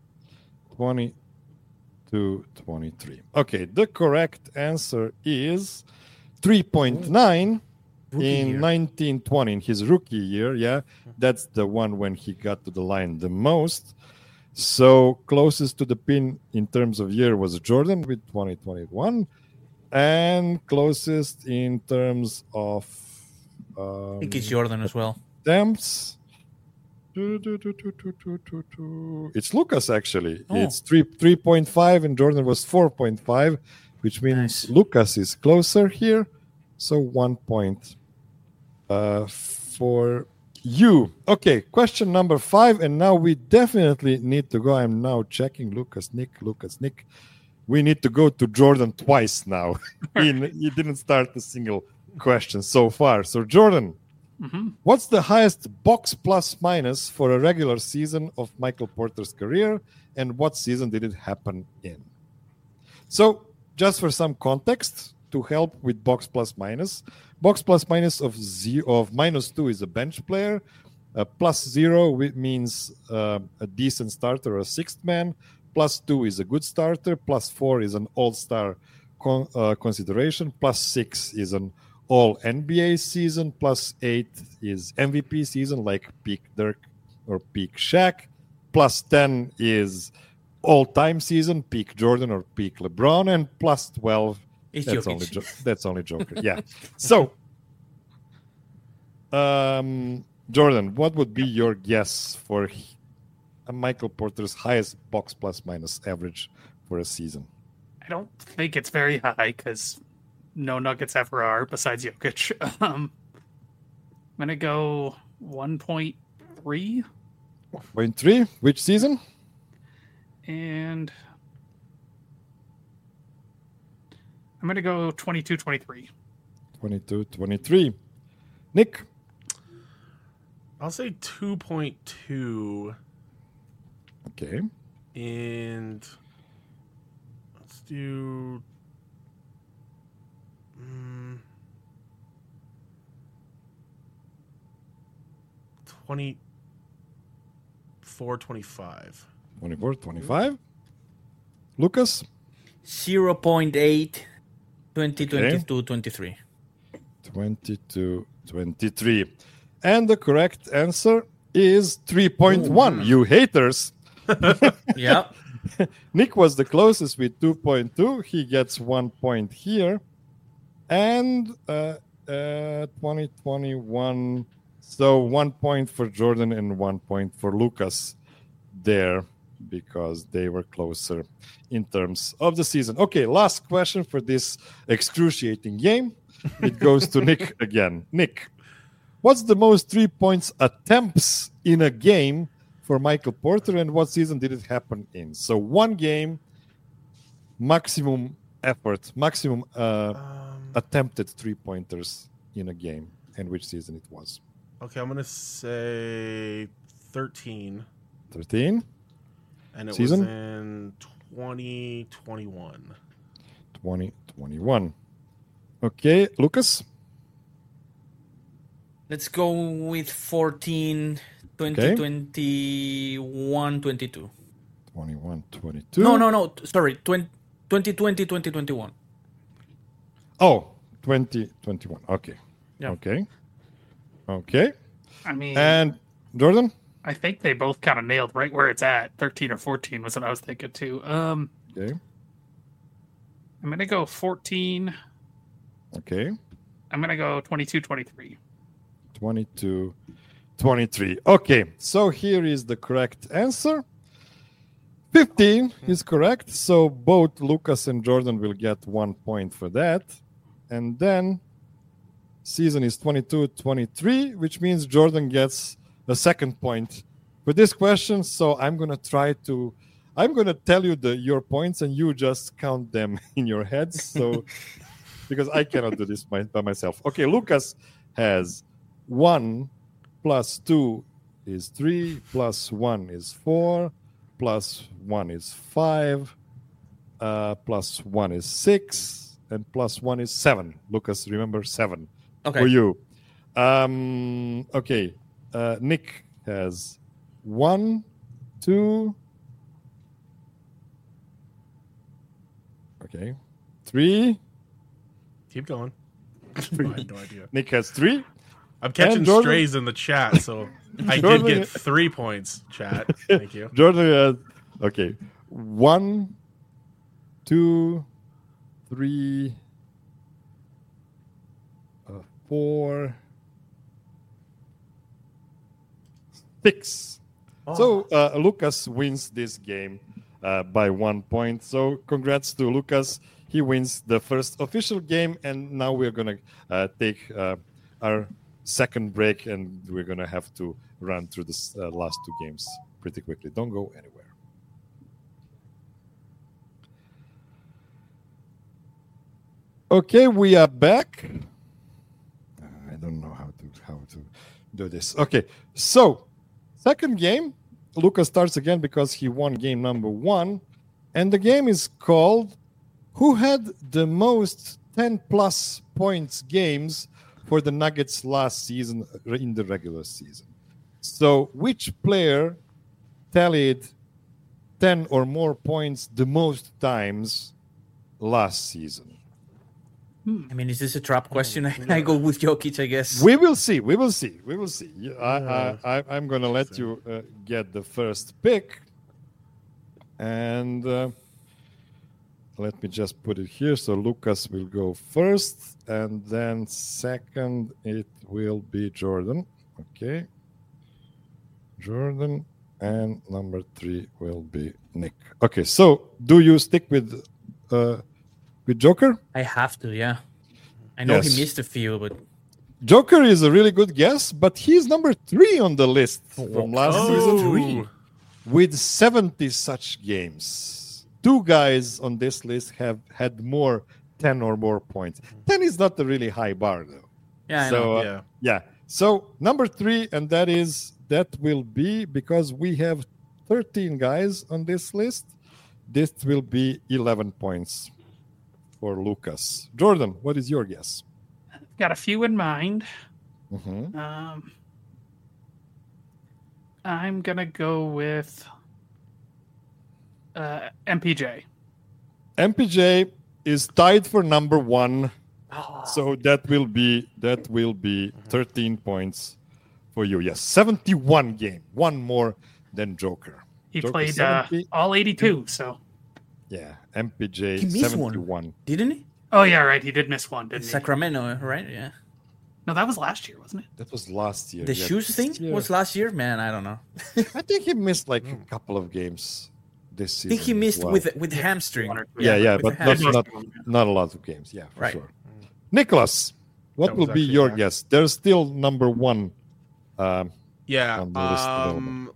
[SPEAKER 1] 22-23. Okay, the correct answer is 3.9 in 1920, in his rookie year. Yeah, that's the one when he got to the line the most. So closest to the pin in terms of year was Jordan with 2021, and closest in terms of
[SPEAKER 2] I think it's Jordan as well.
[SPEAKER 1] Attempts. It's Lucas actually.
[SPEAKER 2] Oh.
[SPEAKER 1] It's 3.5 and Jordan was 4.5, which means Lucas is closer here. So 1 point for you. Okay, question number 5, and now we definitely need to go. I'm now checking Lucas, Nick. We need to go to Jordan twice now. He didn't start a single question so far. So Jordan, what's the highest box plus minus for a regular season of Michael Porter's career, and what season did it happen in? So just for some context to help with box plus minus of -2 is a bench player. +0 means a decent starter or a sixth man. +2 is a good starter. +4 is an all-star consideration. +6 is an all NBA season, plus 8 is MVP season, like peak Dirk or peak Shaq, plus 10 is all-time season, peak Jordan or peak LeBron, and plus 12, that's only Joker. Yeah. So, Jordan, what would be your guess for Michael Porter's highest box plus minus average for a season?
[SPEAKER 3] I don't think it's very high because no Nuggets ever are besides Jokic. I'm going to go 1.3.
[SPEAKER 1] 1.3? Which season?
[SPEAKER 3] And I'm going to go 22-23.
[SPEAKER 1] 22-23. Nick?
[SPEAKER 4] I'll say 2.2.
[SPEAKER 1] Okay.
[SPEAKER 4] And let's do 24-25.
[SPEAKER 1] 24-25. Lucas?
[SPEAKER 2] 0.8. 22-23.
[SPEAKER 1] 22-23. And the correct answer is 3.1. You haters.
[SPEAKER 2] Yeah.
[SPEAKER 1] Nick was the closest with 2.2. He gets 1 point here. And 2021. So 1 point for Jordan and 1 point for Lucas there because they were closer in terms of the season. Okay, last question for this excruciating game. It goes to Nick again. Nick, what's the most 3 points attempts in a game for Michael Porter, and what season did it happen in? So one game, maximum effort, maximum attempted 3-pointers in a game, and which season it was.
[SPEAKER 4] Okay, I'm going to say 13.
[SPEAKER 1] 13.
[SPEAKER 4] And it
[SPEAKER 1] season?
[SPEAKER 4] was in 2021.
[SPEAKER 1] 2021. Okay, Lucas?
[SPEAKER 2] Let's go with 14, 2021, 22.
[SPEAKER 1] 21, 22.
[SPEAKER 2] No. Sorry, 2020, 2021.
[SPEAKER 1] Oh, 2021. Okay.
[SPEAKER 2] Yeah.
[SPEAKER 1] Okay.
[SPEAKER 3] I mean,
[SPEAKER 1] and Jordan?
[SPEAKER 3] I think they both kind of nailed right where it's at. 13 or 14 was what I was thinking too.
[SPEAKER 1] Okay.
[SPEAKER 3] I'm going to go 14.
[SPEAKER 1] Okay.
[SPEAKER 3] I'm going to go 22, 23.
[SPEAKER 1] 22, 23. Okay, so here is the correct answer. 15 is correct. So both Lucas and Jordan will get 1 point for that. And then season is 22, 23, which means Jordan gets a second point for this question. So I'm going to tell you your points and you just count them in your heads. So because I cannot do this by myself. Okay, Lucas has 1 plus 2 is 3, plus 1 is 4, plus 1 is 5, plus 1 is 6, and plus 1 is 7. Lucas, remember 7 for you. Okay, Nick has 1, 2, okay, 3.
[SPEAKER 4] Keep going. I have no idea.
[SPEAKER 1] Nick has 3.
[SPEAKER 4] I'm catching strays in the chat, so I did get 3 points, chat. Thank you.
[SPEAKER 1] Jordan has, okay, 1, 2, 3, 4, 6. Oh. So Lucas wins this game by 1 point. So congrats to Lucas. He wins the first official game, and now we're going to take our second break, and we're going to have to run through the last 2 games pretty quickly. Don't go anywhere. Okay, we are back. I don't know how to do this. Okay, so second game, Lucas starts again because he won game number 1, and the game is called Who Had the Most 10-plus points games for the Nuggets last season in the regular season. So which player tallied 10 or more points the most times last season?
[SPEAKER 2] I mean, is this a trap question? I go with Jokic, I guess.
[SPEAKER 1] We will see. I'm going to let you get the first pick. And let me just put it here. So Lucas will go first. And then second, it will be Jordan. Okay. Jordan. And number 3 will be Nick. Okay. So do you stick with Joker?
[SPEAKER 2] I have to, yeah. I know he missed a few, but
[SPEAKER 1] Joker is a really good guess, but he's number 3 on the list from last season with 70 such games. 2 guys on this list have had more 10 or more points. 10 is not a really high bar, though.
[SPEAKER 2] Yeah, I know.
[SPEAKER 1] So number 3, and that will be, because we have 13 guys on this list, this will be 11 points for Lucas. Jordan, what is your guess?
[SPEAKER 3] I've got a few in mind.
[SPEAKER 1] Mm-hmm.
[SPEAKER 3] I'm going to go with MPJ.
[SPEAKER 1] MPJ is tied for number 1. So that will be 13 points for you. Yes, 71 game. One more than Joker.
[SPEAKER 3] He
[SPEAKER 1] Joker
[SPEAKER 3] played
[SPEAKER 1] 70.
[SPEAKER 3] all 82, so...
[SPEAKER 1] Yeah, MPJ
[SPEAKER 2] He missed
[SPEAKER 1] 71.
[SPEAKER 2] one, didn't he?
[SPEAKER 3] Oh, yeah, right. He did miss one, didn't he?
[SPEAKER 2] Sacramento, right? Yeah.
[SPEAKER 3] No, that was last year, wasn't it?
[SPEAKER 1] That was last year.
[SPEAKER 2] The shoes thing was last year? Man, I don't know.
[SPEAKER 1] I think he missed like a couple of games this season.
[SPEAKER 2] I think he missed
[SPEAKER 1] well.
[SPEAKER 2] with hamstring.
[SPEAKER 1] Yeah,
[SPEAKER 2] with
[SPEAKER 1] but not a lot of games. Yeah, for
[SPEAKER 2] Right.
[SPEAKER 1] sure. Nicholas, what will be your guess? There's still number 1. On the list available.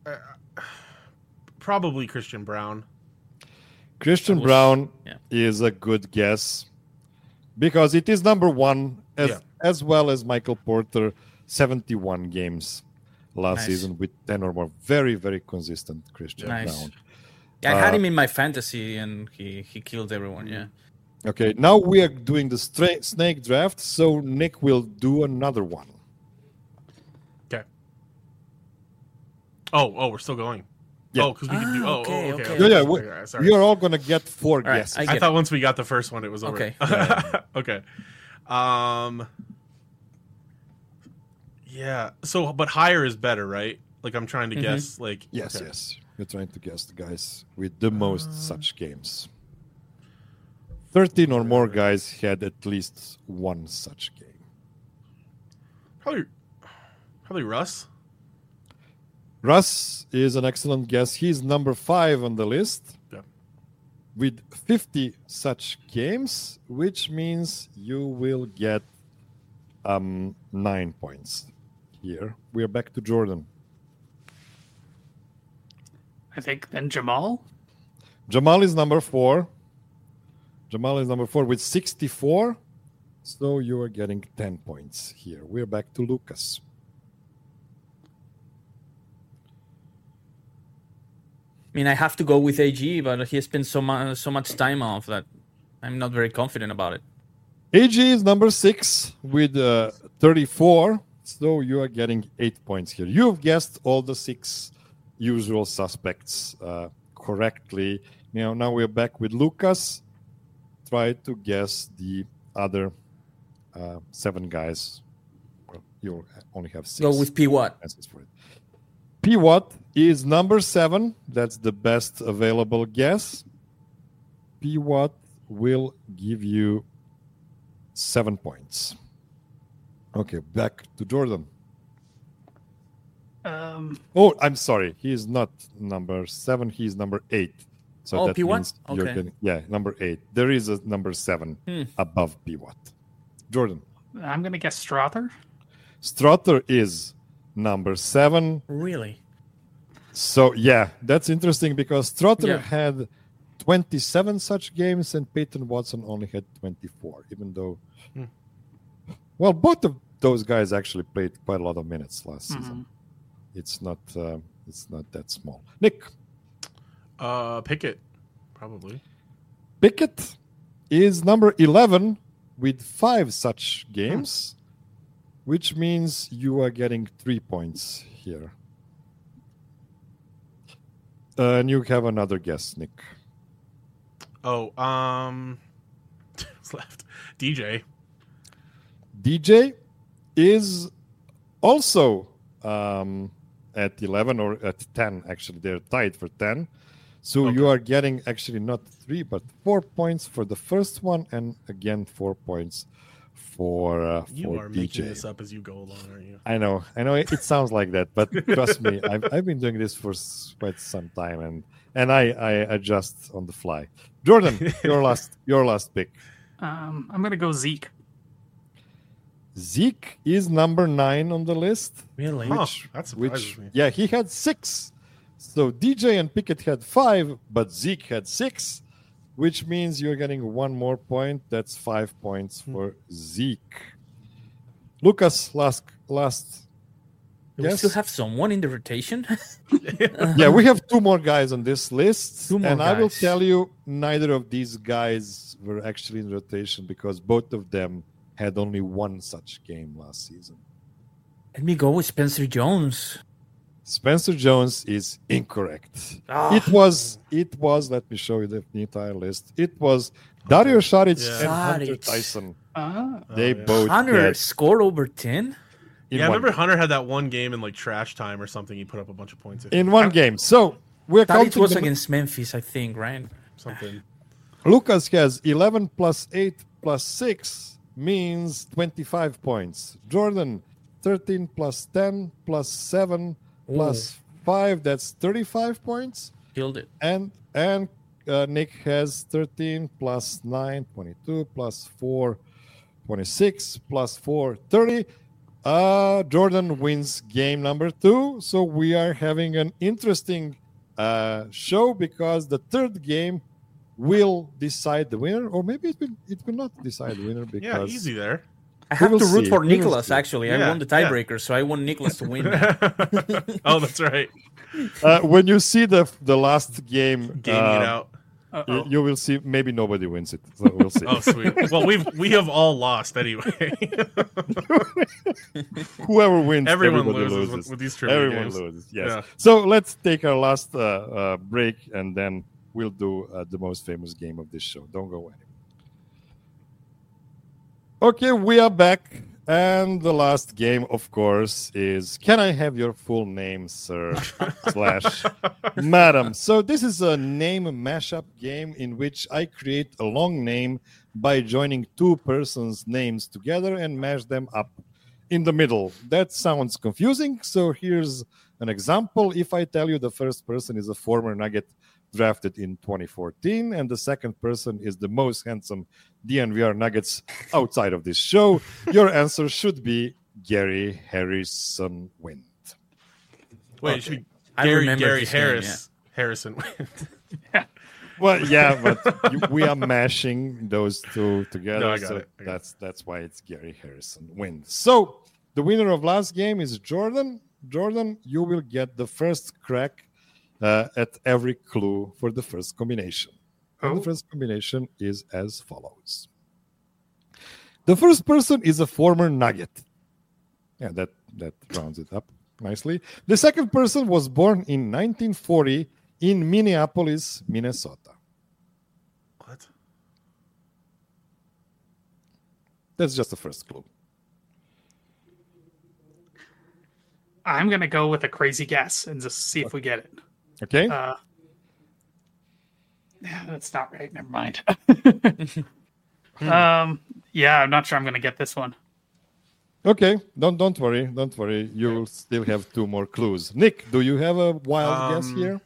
[SPEAKER 4] Probably Christian Brown.
[SPEAKER 1] Christian Brown is a good guess because it is number 1 as well as Michael Porter, 71 games last season with 10 or more. Very, very consistent Christian Brown.
[SPEAKER 2] Yeah, I had him in my fantasy and he killed everyone, yeah.
[SPEAKER 1] Okay, now we are doing the snake draft, so Nick will do another one.
[SPEAKER 4] Okay. Oh, we're still going.
[SPEAKER 1] Yeah.
[SPEAKER 4] Oh, because we can do.
[SPEAKER 2] Okay.
[SPEAKER 1] Yeah.
[SPEAKER 4] Sorry.
[SPEAKER 1] You're all gonna get 4 guesses.
[SPEAKER 4] I thought once we got the first one, it was over.
[SPEAKER 2] Okay.
[SPEAKER 4] Okay. Yeah. So, but higher is better, right? Like I'm trying to guess. Like
[SPEAKER 1] yes. You're trying to guess the guys with the most such games. 13 or more guys had at least 1 such game.
[SPEAKER 4] Probably Russ.
[SPEAKER 1] Russ is an excellent guess. He's number 5 on the list with 50 such games, which means you will get 9 points here. We're back to Jordan.
[SPEAKER 3] I think then Jamal.
[SPEAKER 1] Jamal is number 4. With 64. So you are getting 10 points here. We're back to Lucas.
[SPEAKER 2] I mean, I have to go with AG, but he has spent so much time off that I'm not very confident about it.
[SPEAKER 1] AG is number 6 with 34. So you are getting 8 points here. You've guessed all the 6 usual suspects correctly. Now we're back with Lucas. Try to guess the other 7 guys. Well, you only have 6.
[SPEAKER 2] Go with P. Watt.
[SPEAKER 1] P. Watt is number 7. That's the best available guess. P. Watt will give you 7 points. Okay, back to Jordan. Oh, I'm sorry. He is not number 7. He is number 8. So that
[SPEAKER 2] P. Watt?
[SPEAKER 1] means you're getting, number 8. There is a number 7 above P. Watt. Jordan.
[SPEAKER 3] I'm going to guess Strother.
[SPEAKER 1] Strother is number 7.
[SPEAKER 2] Really?
[SPEAKER 1] So, that's interesting because Strother had 27 such games and Peyton Watson only had 24, even though... Well, both of those guys actually played quite a lot of minutes last season. It's not that small. Nick.
[SPEAKER 4] Pickett, probably.
[SPEAKER 1] Pickett is number 11 with 5 such games, which means you are getting 3 points here. And you have another guess, Nick.
[SPEAKER 4] Oh, points left. DJ
[SPEAKER 1] is also at 11 or at 10. Actually, they're tied for 10. So
[SPEAKER 4] Okay.
[SPEAKER 1] you are getting actually not 3 but 4 points for the first one, and again 4 points for
[SPEAKER 4] you are making
[SPEAKER 1] DJ.
[SPEAKER 4] this up as you go along, aren't you?
[SPEAKER 1] I know it sounds like that, but trust me, I've been doing this for quite some time, and I adjust on the fly. Jordan, your last pick.
[SPEAKER 3] I'm gonna go Zeke.
[SPEAKER 1] Zeke is number 9 on the list.
[SPEAKER 2] Really?
[SPEAKER 4] Huh. That surprises me.
[SPEAKER 1] Yeah, he had 6. So DJ and Pickett had 5, but Zeke had 6, which means you're getting 1 more point. That's 5 points for Zeke. Lucas, last.
[SPEAKER 2] Do we
[SPEAKER 1] Yes.
[SPEAKER 2] still have someone in the rotation?
[SPEAKER 1] Yeah, we have 2 more guys on this list,
[SPEAKER 2] 2 more
[SPEAKER 1] and I will
[SPEAKER 2] guys.
[SPEAKER 1] tell you, neither of these guys were actually in rotation because both of them had only 1 such game last season.
[SPEAKER 2] Let me go with Spencer Jones.
[SPEAKER 1] Spencer Jones is incorrect.
[SPEAKER 2] Ah.
[SPEAKER 1] It was. Let me show you the entire list. It was Dario Saric
[SPEAKER 4] Yeah.
[SPEAKER 1] and Hunter
[SPEAKER 2] Saric.
[SPEAKER 1] Tyson.
[SPEAKER 3] Ah,
[SPEAKER 1] They
[SPEAKER 4] yeah.
[SPEAKER 1] both
[SPEAKER 2] Hunter
[SPEAKER 1] had
[SPEAKER 2] scored over 10?
[SPEAKER 1] in
[SPEAKER 4] Yeah, I
[SPEAKER 1] one
[SPEAKER 4] remember
[SPEAKER 1] game.
[SPEAKER 4] Hunter had that one game in like trash time or something. He put up a bunch of points.
[SPEAKER 1] In one game. So we're
[SPEAKER 2] That
[SPEAKER 1] counting.
[SPEAKER 2] it was
[SPEAKER 1] them-
[SPEAKER 2] against Memphis, I think, right?
[SPEAKER 4] Something.
[SPEAKER 1] Lucas has 11 plus 8 plus 6 means 25 points. Jordan 13 plus 10 plus 7 plus 5, that's 35 points.
[SPEAKER 2] Killed it.
[SPEAKER 1] And Nick has 13 plus 9, 22 plus 4, 26 plus 4, 30. Jordan wins game number 2. So we are having an interesting show because the third game will decide the winner, or maybe it will not decide the winner because
[SPEAKER 4] Yeah, easy there.
[SPEAKER 2] I have
[SPEAKER 1] will
[SPEAKER 2] to root
[SPEAKER 1] see.
[SPEAKER 2] for
[SPEAKER 1] We will
[SPEAKER 2] Nicholas,
[SPEAKER 1] see.
[SPEAKER 2] actually. I
[SPEAKER 4] Yeah,
[SPEAKER 2] won the
[SPEAKER 4] yeah.
[SPEAKER 2] tiebreaker, so I want Nicholas to win.
[SPEAKER 4] Oh, that's right.
[SPEAKER 1] when you see the last game,
[SPEAKER 4] Gaming it out.
[SPEAKER 3] uh-oh.
[SPEAKER 1] you will see maybe nobody wins it. So we'll see.
[SPEAKER 4] Oh, sweet. Well, we have all lost anyway.
[SPEAKER 1] Whoever wins,
[SPEAKER 4] Everyone
[SPEAKER 1] everybody
[SPEAKER 4] loses with these trivia
[SPEAKER 1] Everyone
[SPEAKER 4] games.
[SPEAKER 1] loses. Yes.
[SPEAKER 4] Yeah.
[SPEAKER 1] So let's take our last break, and then we'll do the most famous game of this show. Don't go anywhere. Okay, we are back, and the last game, of course, is "Can I have your full name, sir?" / madam. So this is a name mashup game in which I create a long name by joining 2 persons' names together and mash them up in the middle. That sounds confusing. So here's an example. If I tell you the first person is a former Nugget drafted in 2014, and the second person is the most handsome DNVR Nuggets outside of this show, your answer should be Gary Harrison Wind.
[SPEAKER 4] Wait, it should be
[SPEAKER 2] I
[SPEAKER 4] Gary
[SPEAKER 2] remember this game,
[SPEAKER 4] Harris. Harrison.
[SPEAKER 1] Well, yeah, but we are mashing those 2 together.
[SPEAKER 4] No, I got
[SPEAKER 1] so
[SPEAKER 4] it. I got
[SPEAKER 1] that's why it's Gary Harrison Wind. So the winner of last game is Jordan. Jordan, you will get the first crack at every clue for the first combination. And the first combination is as follows. The first person is a former Nugget. Yeah, that rounds it up nicely. The second person was born in 1940 in Minneapolis, Minnesota.
[SPEAKER 4] What?
[SPEAKER 1] That's just the first clue.
[SPEAKER 3] I'm gonna go with a crazy guess and just see if we get it.
[SPEAKER 1] Okay?
[SPEAKER 3] Yeah, that's not right. Never mind. Yeah, I'm not sure I'm gonna get this one.
[SPEAKER 1] Okay, don't worry. Don't worry. You will still have 2 more clues. Nick, do you have a wild guess here?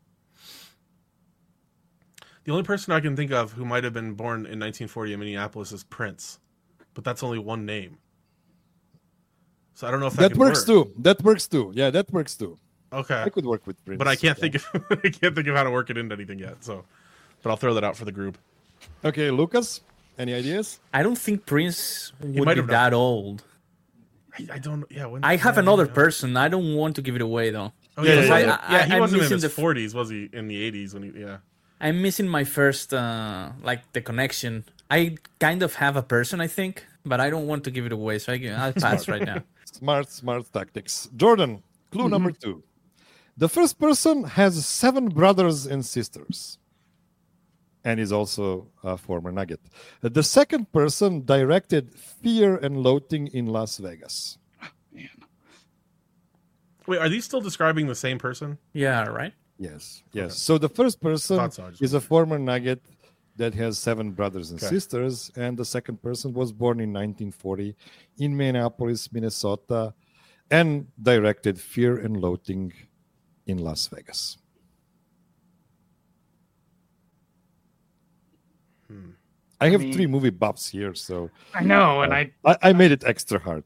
[SPEAKER 4] The only person I can think of who might have been born in 1940 in Minneapolis is Prince, but that's only one name. So I don't know if
[SPEAKER 1] That
[SPEAKER 4] can
[SPEAKER 1] works
[SPEAKER 4] work.
[SPEAKER 1] too. That works too. Yeah, that works too.
[SPEAKER 4] Okay,
[SPEAKER 1] I could work with Prince.
[SPEAKER 4] but I can't
[SPEAKER 1] Yeah.
[SPEAKER 4] think of I can't think of how to work it into anything yet. So, but I'll throw that out for the group.
[SPEAKER 1] Okay, Lucas, any ideas?
[SPEAKER 2] I don't think Prince would
[SPEAKER 4] might
[SPEAKER 2] be
[SPEAKER 4] have done-
[SPEAKER 2] that old.
[SPEAKER 4] I don't. Yeah, when,
[SPEAKER 2] I have
[SPEAKER 4] yeah,
[SPEAKER 2] another
[SPEAKER 4] yeah.
[SPEAKER 2] person. I don't want to give it away, though.
[SPEAKER 4] Oh,
[SPEAKER 1] Yeah,
[SPEAKER 4] yeah,
[SPEAKER 1] yeah,
[SPEAKER 4] yeah.
[SPEAKER 2] I-
[SPEAKER 4] He
[SPEAKER 2] I'm
[SPEAKER 4] wasn't in
[SPEAKER 2] missing
[SPEAKER 4] his
[SPEAKER 2] the
[SPEAKER 4] 40s, was he? In the 80s when he? Yeah.
[SPEAKER 2] I'm missing my first, like, the connection. I kind of have a person, I think, but I don't want to give it away, so I'll pass right now.
[SPEAKER 1] Smart tactics. Jordan, clue number 2. The first person has 7 brothers and sisters. and is also a former Nugget. The second person directed Fear and Loathing in Las Vegas.
[SPEAKER 3] Man.
[SPEAKER 4] Wait, are these still describing the same person?
[SPEAKER 2] Yeah, right.
[SPEAKER 1] Yes. So the first person
[SPEAKER 4] Thought so, I just
[SPEAKER 1] is a former Nugget that has 7 brothers and
[SPEAKER 4] Okay.
[SPEAKER 1] sisters, and the second person was born in 1940 in Minneapolis, Minnesota, and directed Fear and Loathing in Las Vegas. I have
[SPEAKER 3] mean-
[SPEAKER 1] 3 movie buffs here, so
[SPEAKER 3] I know, and
[SPEAKER 1] I made it extra hard.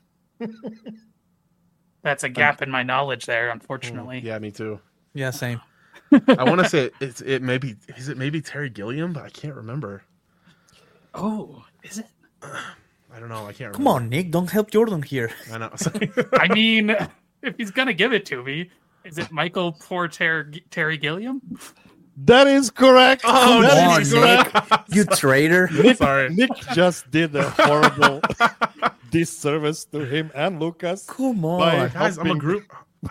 [SPEAKER 3] that's a gap in my knowledge there, unfortunately.
[SPEAKER 4] Yeah, me too.
[SPEAKER 2] Yeah, same.
[SPEAKER 4] I want to say it maybe Terry Gilliam, but I can't remember.
[SPEAKER 3] Oh, is it?
[SPEAKER 4] I don't know. I can't remember.
[SPEAKER 2] Come on, Nick. Don't help Jordan here.
[SPEAKER 4] I know.
[SPEAKER 3] I mean, if he's gonna give it to me, is it Michael Terry Gilliam?
[SPEAKER 1] That is correct.
[SPEAKER 4] Oh,
[SPEAKER 1] That
[SPEAKER 2] Come on,
[SPEAKER 1] is
[SPEAKER 2] Nick. You traitor.
[SPEAKER 4] Sorry.
[SPEAKER 1] Nick just did a horrible disservice to him and Lucas
[SPEAKER 2] Come on.
[SPEAKER 1] Bye.
[SPEAKER 4] Guys, I'm a group.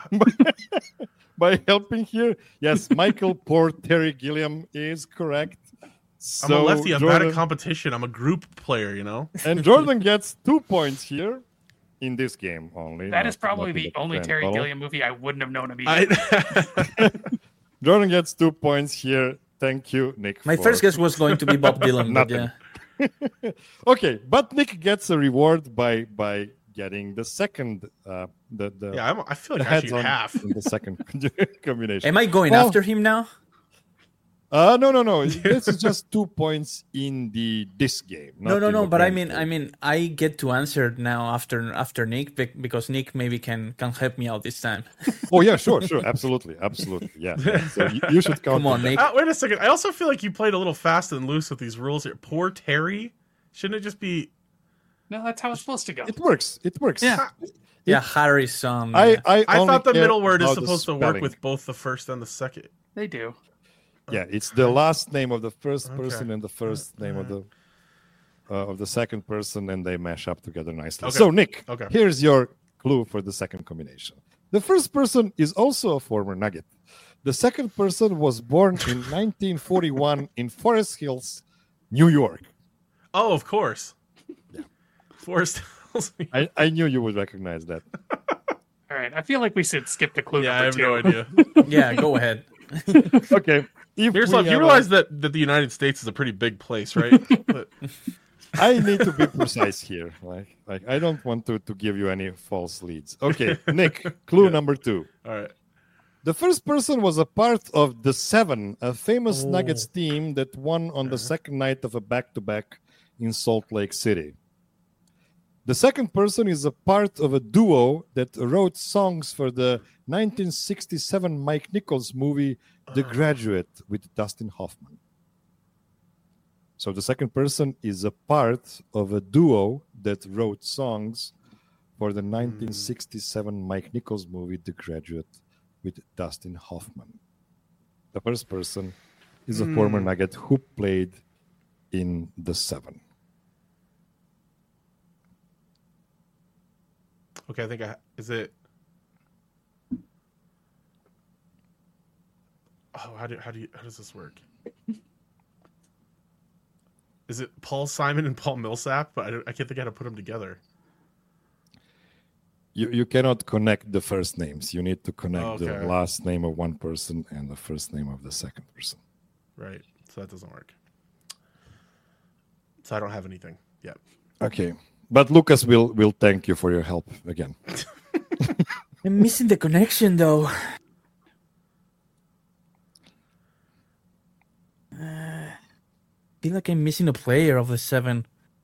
[SPEAKER 1] by helping here. Yes, Michael Terry Gilliam is correct.
[SPEAKER 4] I'm
[SPEAKER 1] So
[SPEAKER 4] a lefty. I'm bad
[SPEAKER 1] Jordan,
[SPEAKER 4] at competition. I'm a group player, you know?
[SPEAKER 1] and Jordan gets 2 points here in this game only.
[SPEAKER 3] That
[SPEAKER 1] not-
[SPEAKER 3] is probably
[SPEAKER 1] not in
[SPEAKER 3] the only
[SPEAKER 1] grand
[SPEAKER 3] Terry
[SPEAKER 1] total.
[SPEAKER 3] Gilliam movie I wouldn't have known immediately.
[SPEAKER 1] Jordan gets 2 points here. Thank you, Nick.
[SPEAKER 2] My
[SPEAKER 1] for-
[SPEAKER 2] first guess was going to be Bob Dylan, but
[SPEAKER 1] Nothing.
[SPEAKER 2] yeah.
[SPEAKER 1] Okay, but Nick gets a reward by getting the second the
[SPEAKER 4] Yeah, I feel
[SPEAKER 1] the
[SPEAKER 4] like I should
[SPEAKER 1] heads on
[SPEAKER 4] half.
[SPEAKER 1] in the second combination.
[SPEAKER 2] Am I going
[SPEAKER 1] Well-
[SPEAKER 2] after him now?
[SPEAKER 1] No. This is just 2 points in this game. not in
[SPEAKER 2] No.
[SPEAKER 1] the
[SPEAKER 2] But I
[SPEAKER 1] grand
[SPEAKER 2] mean,
[SPEAKER 1] game.
[SPEAKER 2] I get to answer now after Nick because Nick maybe can help me out this time.
[SPEAKER 1] Oh yeah, sure, absolutely, yeah. So you should count.
[SPEAKER 2] Come on, Nick.
[SPEAKER 4] Wait a second. I also feel like you played a little fast and loose with these rules here. Poor Terry. Shouldn't it just be?
[SPEAKER 3] No, that's how it's supposed to go.
[SPEAKER 1] It works.
[SPEAKER 2] Yeah. Yeah, Harry's son.
[SPEAKER 1] I
[SPEAKER 4] I
[SPEAKER 1] only
[SPEAKER 4] thought the
[SPEAKER 1] care
[SPEAKER 4] middle word is
[SPEAKER 1] about the
[SPEAKER 4] supposed to work
[SPEAKER 1] spelling.
[SPEAKER 4] with both the first and the second.
[SPEAKER 3] They do.
[SPEAKER 1] Yeah, it's the last name of the first
[SPEAKER 4] Okay.
[SPEAKER 1] person and the first name of the second person, and they mash up together nicely.
[SPEAKER 4] Okay.
[SPEAKER 1] So, Nick,
[SPEAKER 4] Okay.
[SPEAKER 1] here's your clue for the second combination. The first person is also a former Nugget. The second person was born in 1941 in Forest Hills, New York.
[SPEAKER 4] Oh, of course.
[SPEAKER 1] Yeah.
[SPEAKER 4] Forrest Hills.
[SPEAKER 1] I knew you would recognize that.
[SPEAKER 3] All right. I feel like we should skip to clue
[SPEAKER 4] Yeah, I
[SPEAKER 3] number
[SPEAKER 4] have
[SPEAKER 3] 2.
[SPEAKER 4] no idea.
[SPEAKER 2] Yeah, go ahead.
[SPEAKER 1] Okay. If
[SPEAKER 4] Miroslav,
[SPEAKER 1] we
[SPEAKER 4] you
[SPEAKER 1] have
[SPEAKER 4] realize that the United States is a pretty big place, right? But-
[SPEAKER 1] I need to be precise here. Like I don't want to give you any false leads. Okay, Nick, clue
[SPEAKER 4] Yeah.
[SPEAKER 1] number 2.
[SPEAKER 4] all right.
[SPEAKER 1] The first person was a part of the Seven, a famous Nuggets team that won on the second night of a back-to-back in Salt Lake City. The second person is a part of a duo that wrote songs for the 1967 Mike Nichols movie The Graduate with Dustin Hoffman. So the second person is a part of a duo that wrote songs for the 1967 Mike Nichols movie The Graduate with Dustin Hoffman. The first person is a former Nugget who played in the Seven.
[SPEAKER 4] Okay, I think is it. Oh, how does this work? Is it Paul Simon and Paul Millsap? But I can't think how to put them together.
[SPEAKER 1] You cannot connect the first names. You need to connect the
[SPEAKER 4] Okay.
[SPEAKER 1] last name of one person and the first name of the second person.
[SPEAKER 4] Right. So that doesn't work. So I don't have anything yet.
[SPEAKER 1] Okay. But Lucas will thank you for your help again.
[SPEAKER 2] I'm missing the connection though. I feel like I'm missing a player of the Seven.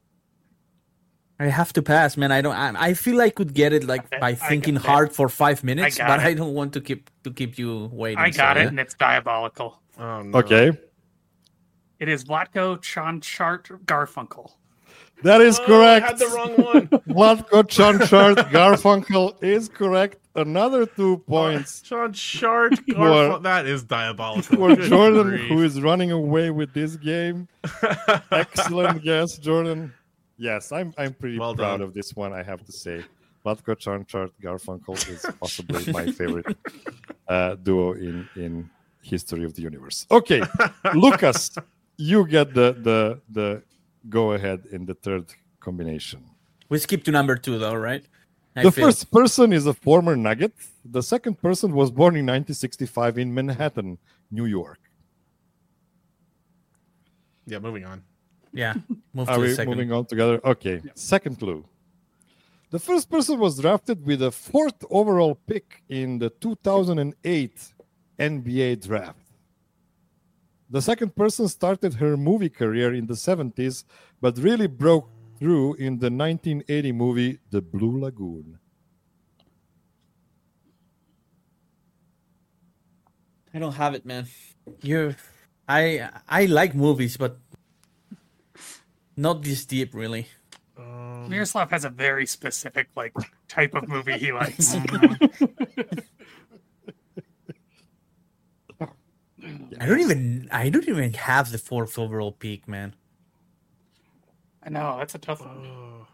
[SPEAKER 2] I have to pass, man. I feel I could get it like
[SPEAKER 3] Okay,
[SPEAKER 2] by
[SPEAKER 3] I
[SPEAKER 2] thinking
[SPEAKER 3] got it.
[SPEAKER 2] hard for 5 minutes,
[SPEAKER 3] got
[SPEAKER 2] but
[SPEAKER 3] it.
[SPEAKER 2] I don't want to keep you waiting.
[SPEAKER 3] I got
[SPEAKER 2] so,
[SPEAKER 3] it,
[SPEAKER 2] yeah.
[SPEAKER 3] and it's diabolical.
[SPEAKER 4] Oh, no.
[SPEAKER 1] Okay.
[SPEAKER 3] It is Vlatko Chonchart Garfunkel.
[SPEAKER 1] That is
[SPEAKER 4] Oh,
[SPEAKER 1] correct.
[SPEAKER 4] I had the wrong one.
[SPEAKER 1] Vlatko Chonchart Garfunkel is correct. Another 2 points
[SPEAKER 4] Sean Shart.
[SPEAKER 1] For-
[SPEAKER 4] That is diabolical.
[SPEAKER 1] for
[SPEAKER 4] Good
[SPEAKER 1] Jordan,
[SPEAKER 4] grief.
[SPEAKER 1] who is running away with this game. Excellent guess, Jordan. Yes, I'm pretty
[SPEAKER 4] Well
[SPEAKER 1] proud
[SPEAKER 4] done.
[SPEAKER 1] of this one, I have to say. Vlatko Chonchart Garfunkel is possibly my favorite duo in history of the universe. Okay, Lucas, you get the go ahead in the third combination.
[SPEAKER 2] We skip to number 2, though, right?
[SPEAKER 1] The first person is a former Nugget. The second person was born in 1965 in Manhattan, New York.
[SPEAKER 4] Yeah, moving on.
[SPEAKER 2] Yeah, move
[SPEAKER 1] Are
[SPEAKER 2] to the
[SPEAKER 1] we
[SPEAKER 2] second.
[SPEAKER 1] moving on together? Okay. Yeah. Second clue. The first person was drafted with a 4th overall pick in the 2008 NBA draft. The second person started her movie career in the 70s, but really broke through in the 1980 movie The Blue Lagoon.
[SPEAKER 2] I don't have it, man. I like movies, but not this deep, really.
[SPEAKER 3] Miroslav has a very specific type of movie he likes.
[SPEAKER 2] I don't even have the 4th overall pick, man.
[SPEAKER 3] I know, that's a tough one.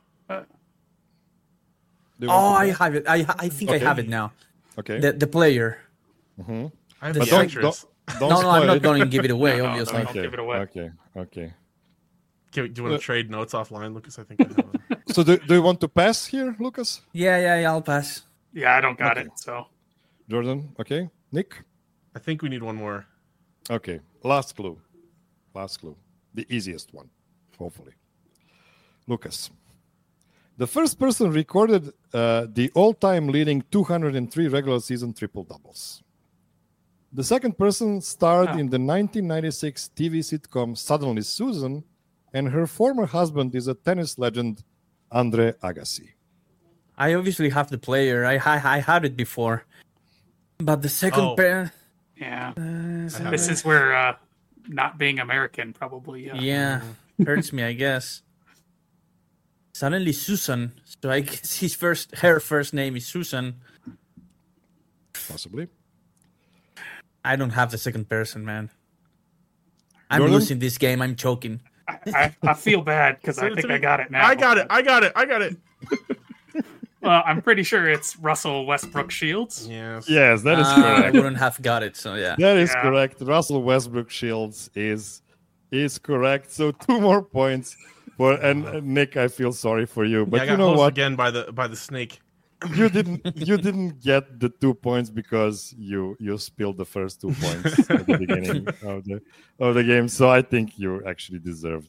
[SPEAKER 2] I have it. I think I have it now.
[SPEAKER 1] Okay.
[SPEAKER 2] The player.
[SPEAKER 1] Mm-hmm.
[SPEAKER 4] I have
[SPEAKER 2] The
[SPEAKER 4] the actress.
[SPEAKER 1] Don't
[SPEAKER 2] I'm
[SPEAKER 1] spoil
[SPEAKER 2] not
[SPEAKER 1] it.
[SPEAKER 2] going to give it away,
[SPEAKER 3] No,
[SPEAKER 2] obviously.
[SPEAKER 3] don't give it away.
[SPEAKER 1] Okay.
[SPEAKER 4] Do you want to trade notes offline, Lucas? I think I have them.
[SPEAKER 1] So do you want to pass here, Lucas?
[SPEAKER 2] Yeah, I'll pass.
[SPEAKER 3] Yeah, I don't got it, so.
[SPEAKER 1] Jordan, okay. Nick?
[SPEAKER 4] I think we need one more.
[SPEAKER 1] Okay. Last clue. The easiest one, hopefully. Lucas. The first person recorded the all-time leading 203 regular season triple-doubles. The second person starred in the 1996 TV sitcom Suddenly Susan, and her former husband is a tennis legend, Andre Agassi.
[SPEAKER 2] I obviously have the player. I had it before. But the second pair...
[SPEAKER 3] Yeah. This is where not being American probably...
[SPEAKER 2] Yeah, hurts me, I guess. Suddenly Susan. So I guess her first name is Susan.
[SPEAKER 1] Possibly.
[SPEAKER 2] I don't have the second person, man. I'm
[SPEAKER 1] Jordan?
[SPEAKER 2] losing this game. I'm choking.
[SPEAKER 3] I feel bad because I think I got it now.
[SPEAKER 4] I got it.
[SPEAKER 3] Well, I'm pretty sure it's Russell Westbrook Shields.
[SPEAKER 4] Yes.
[SPEAKER 1] Yes, that is
[SPEAKER 2] I
[SPEAKER 1] correct.
[SPEAKER 2] wouldn't have got it, so yeah.
[SPEAKER 1] That is
[SPEAKER 3] Yeah.
[SPEAKER 1] correct. Russell Westbrook Shields is correct. So 2 more points for and Nick. I feel sorry for you, but
[SPEAKER 4] I got
[SPEAKER 1] you know
[SPEAKER 4] hosed
[SPEAKER 1] what?
[SPEAKER 4] again by the snake.
[SPEAKER 1] You didn't get the 2 points because you spilled the first 2 points at the beginning of the game. So I think you actually deserved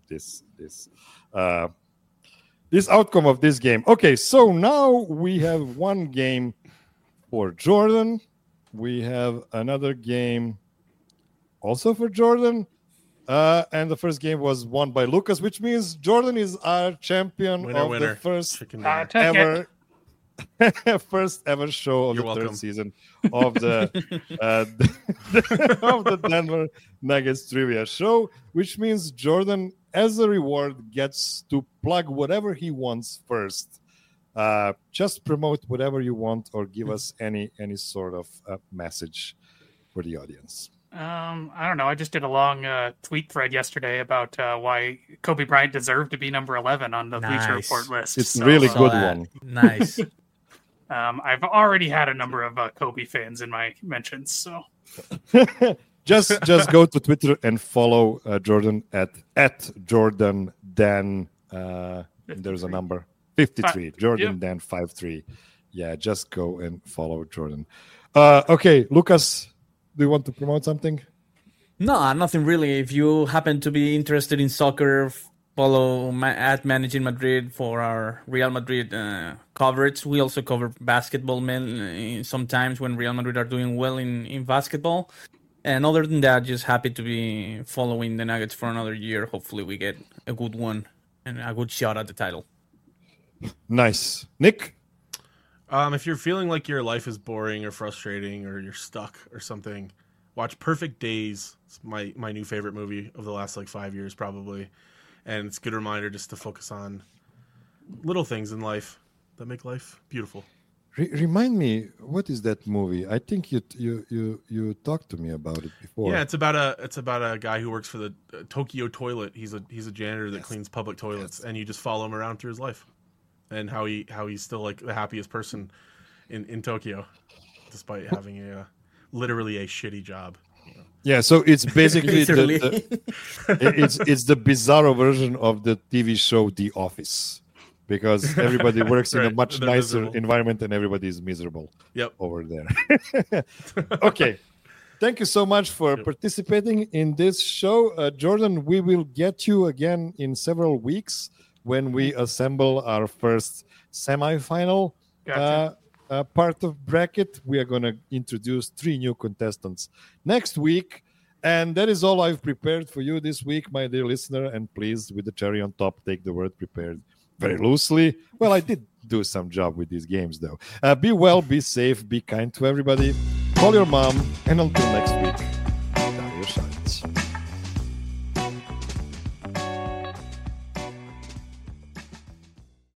[SPEAKER 1] this outcome of this game. Okay, so now we have 1 game for Jordan. We have another game also for Jordan. And the first game was won by Lucas, which means Jordan is our champion
[SPEAKER 4] Winner.
[SPEAKER 1] the first
[SPEAKER 4] Chicken dinner.
[SPEAKER 1] ever first ever show of
[SPEAKER 4] You're
[SPEAKER 1] the
[SPEAKER 4] welcome.
[SPEAKER 1] third season of the of the Denver Nuggets trivia show, which means Jordan, as a reward, gets to plug whatever he wants first. Just promote whatever you want, or give us any sort of message for the audience.
[SPEAKER 3] I don't know. I just did a long tweet thread yesterday about why Kobe Bryant deserved to be number 11 on the Bleacher
[SPEAKER 2] Nice.
[SPEAKER 3] Report list.
[SPEAKER 1] It's
[SPEAKER 3] So,
[SPEAKER 1] really
[SPEAKER 2] Saw
[SPEAKER 1] good
[SPEAKER 2] that.
[SPEAKER 1] one.
[SPEAKER 2] Nice.
[SPEAKER 3] I've already had a number of Kobe fans in my mentions. So
[SPEAKER 1] just go to Twitter and follow Jordan at Jordan Dan. There's a number 53. Jordan Dan 53. Yeah, just go and follow Jordan. Okay, Lucas, do you want to promote something?
[SPEAKER 2] No, nothing really. If you happen to be interested in soccer, follow at Managing Madrid for our Real Madrid coverage. We also cover basketball sometimes when Real Madrid are doing well in basketball. And other than that, just happy to be following the Nuggets for another year. Hopefully we get a good one and a good shot at the title.
[SPEAKER 1] Nice. Nick?
[SPEAKER 4] If you're feeling like your life is boring or frustrating or you're stuck or something, watch Perfect Days. It's my new favorite movie of the last 5 years probably. And it's a good reminder just to focus on little things in life that make life beautiful.
[SPEAKER 1] Remind me, what is that movie? I think you talked to me about it before.
[SPEAKER 4] Yeah, it's about a guy who works for the Tokyo Toilet. He's a janitor that cleans public toilets, and you just follow him around through his life, and how he's still the happiest person in Tokyo, despite having literally a shitty job.
[SPEAKER 1] Yeah, so it's basically
[SPEAKER 2] Literally.
[SPEAKER 1] it's the bizarro version of the TV show The Office, because everybody works in a
[SPEAKER 4] Right,
[SPEAKER 1] much
[SPEAKER 4] they're
[SPEAKER 1] nicer
[SPEAKER 4] miserable.
[SPEAKER 1] environment and everybody is miserable
[SPEAKER 4] Yep.
[SPEAKER 1] over there. Okay. Thank you so much for participating in this show. Jordan, we will get you again in several weeks when we assemble our first semifinal
[SPEAKER 3] Gotcha.
[SPEAKER 1] part of bracket. We are going to introduce 3 new contestants next week. And that is all I've prepared for you this week, my dear listener. And please, with the cherry on top, take the word prepared very loosely. Well, I did do some job with these games, though. Be well, be safe, be kind to everybody. Call your mom, and until next week.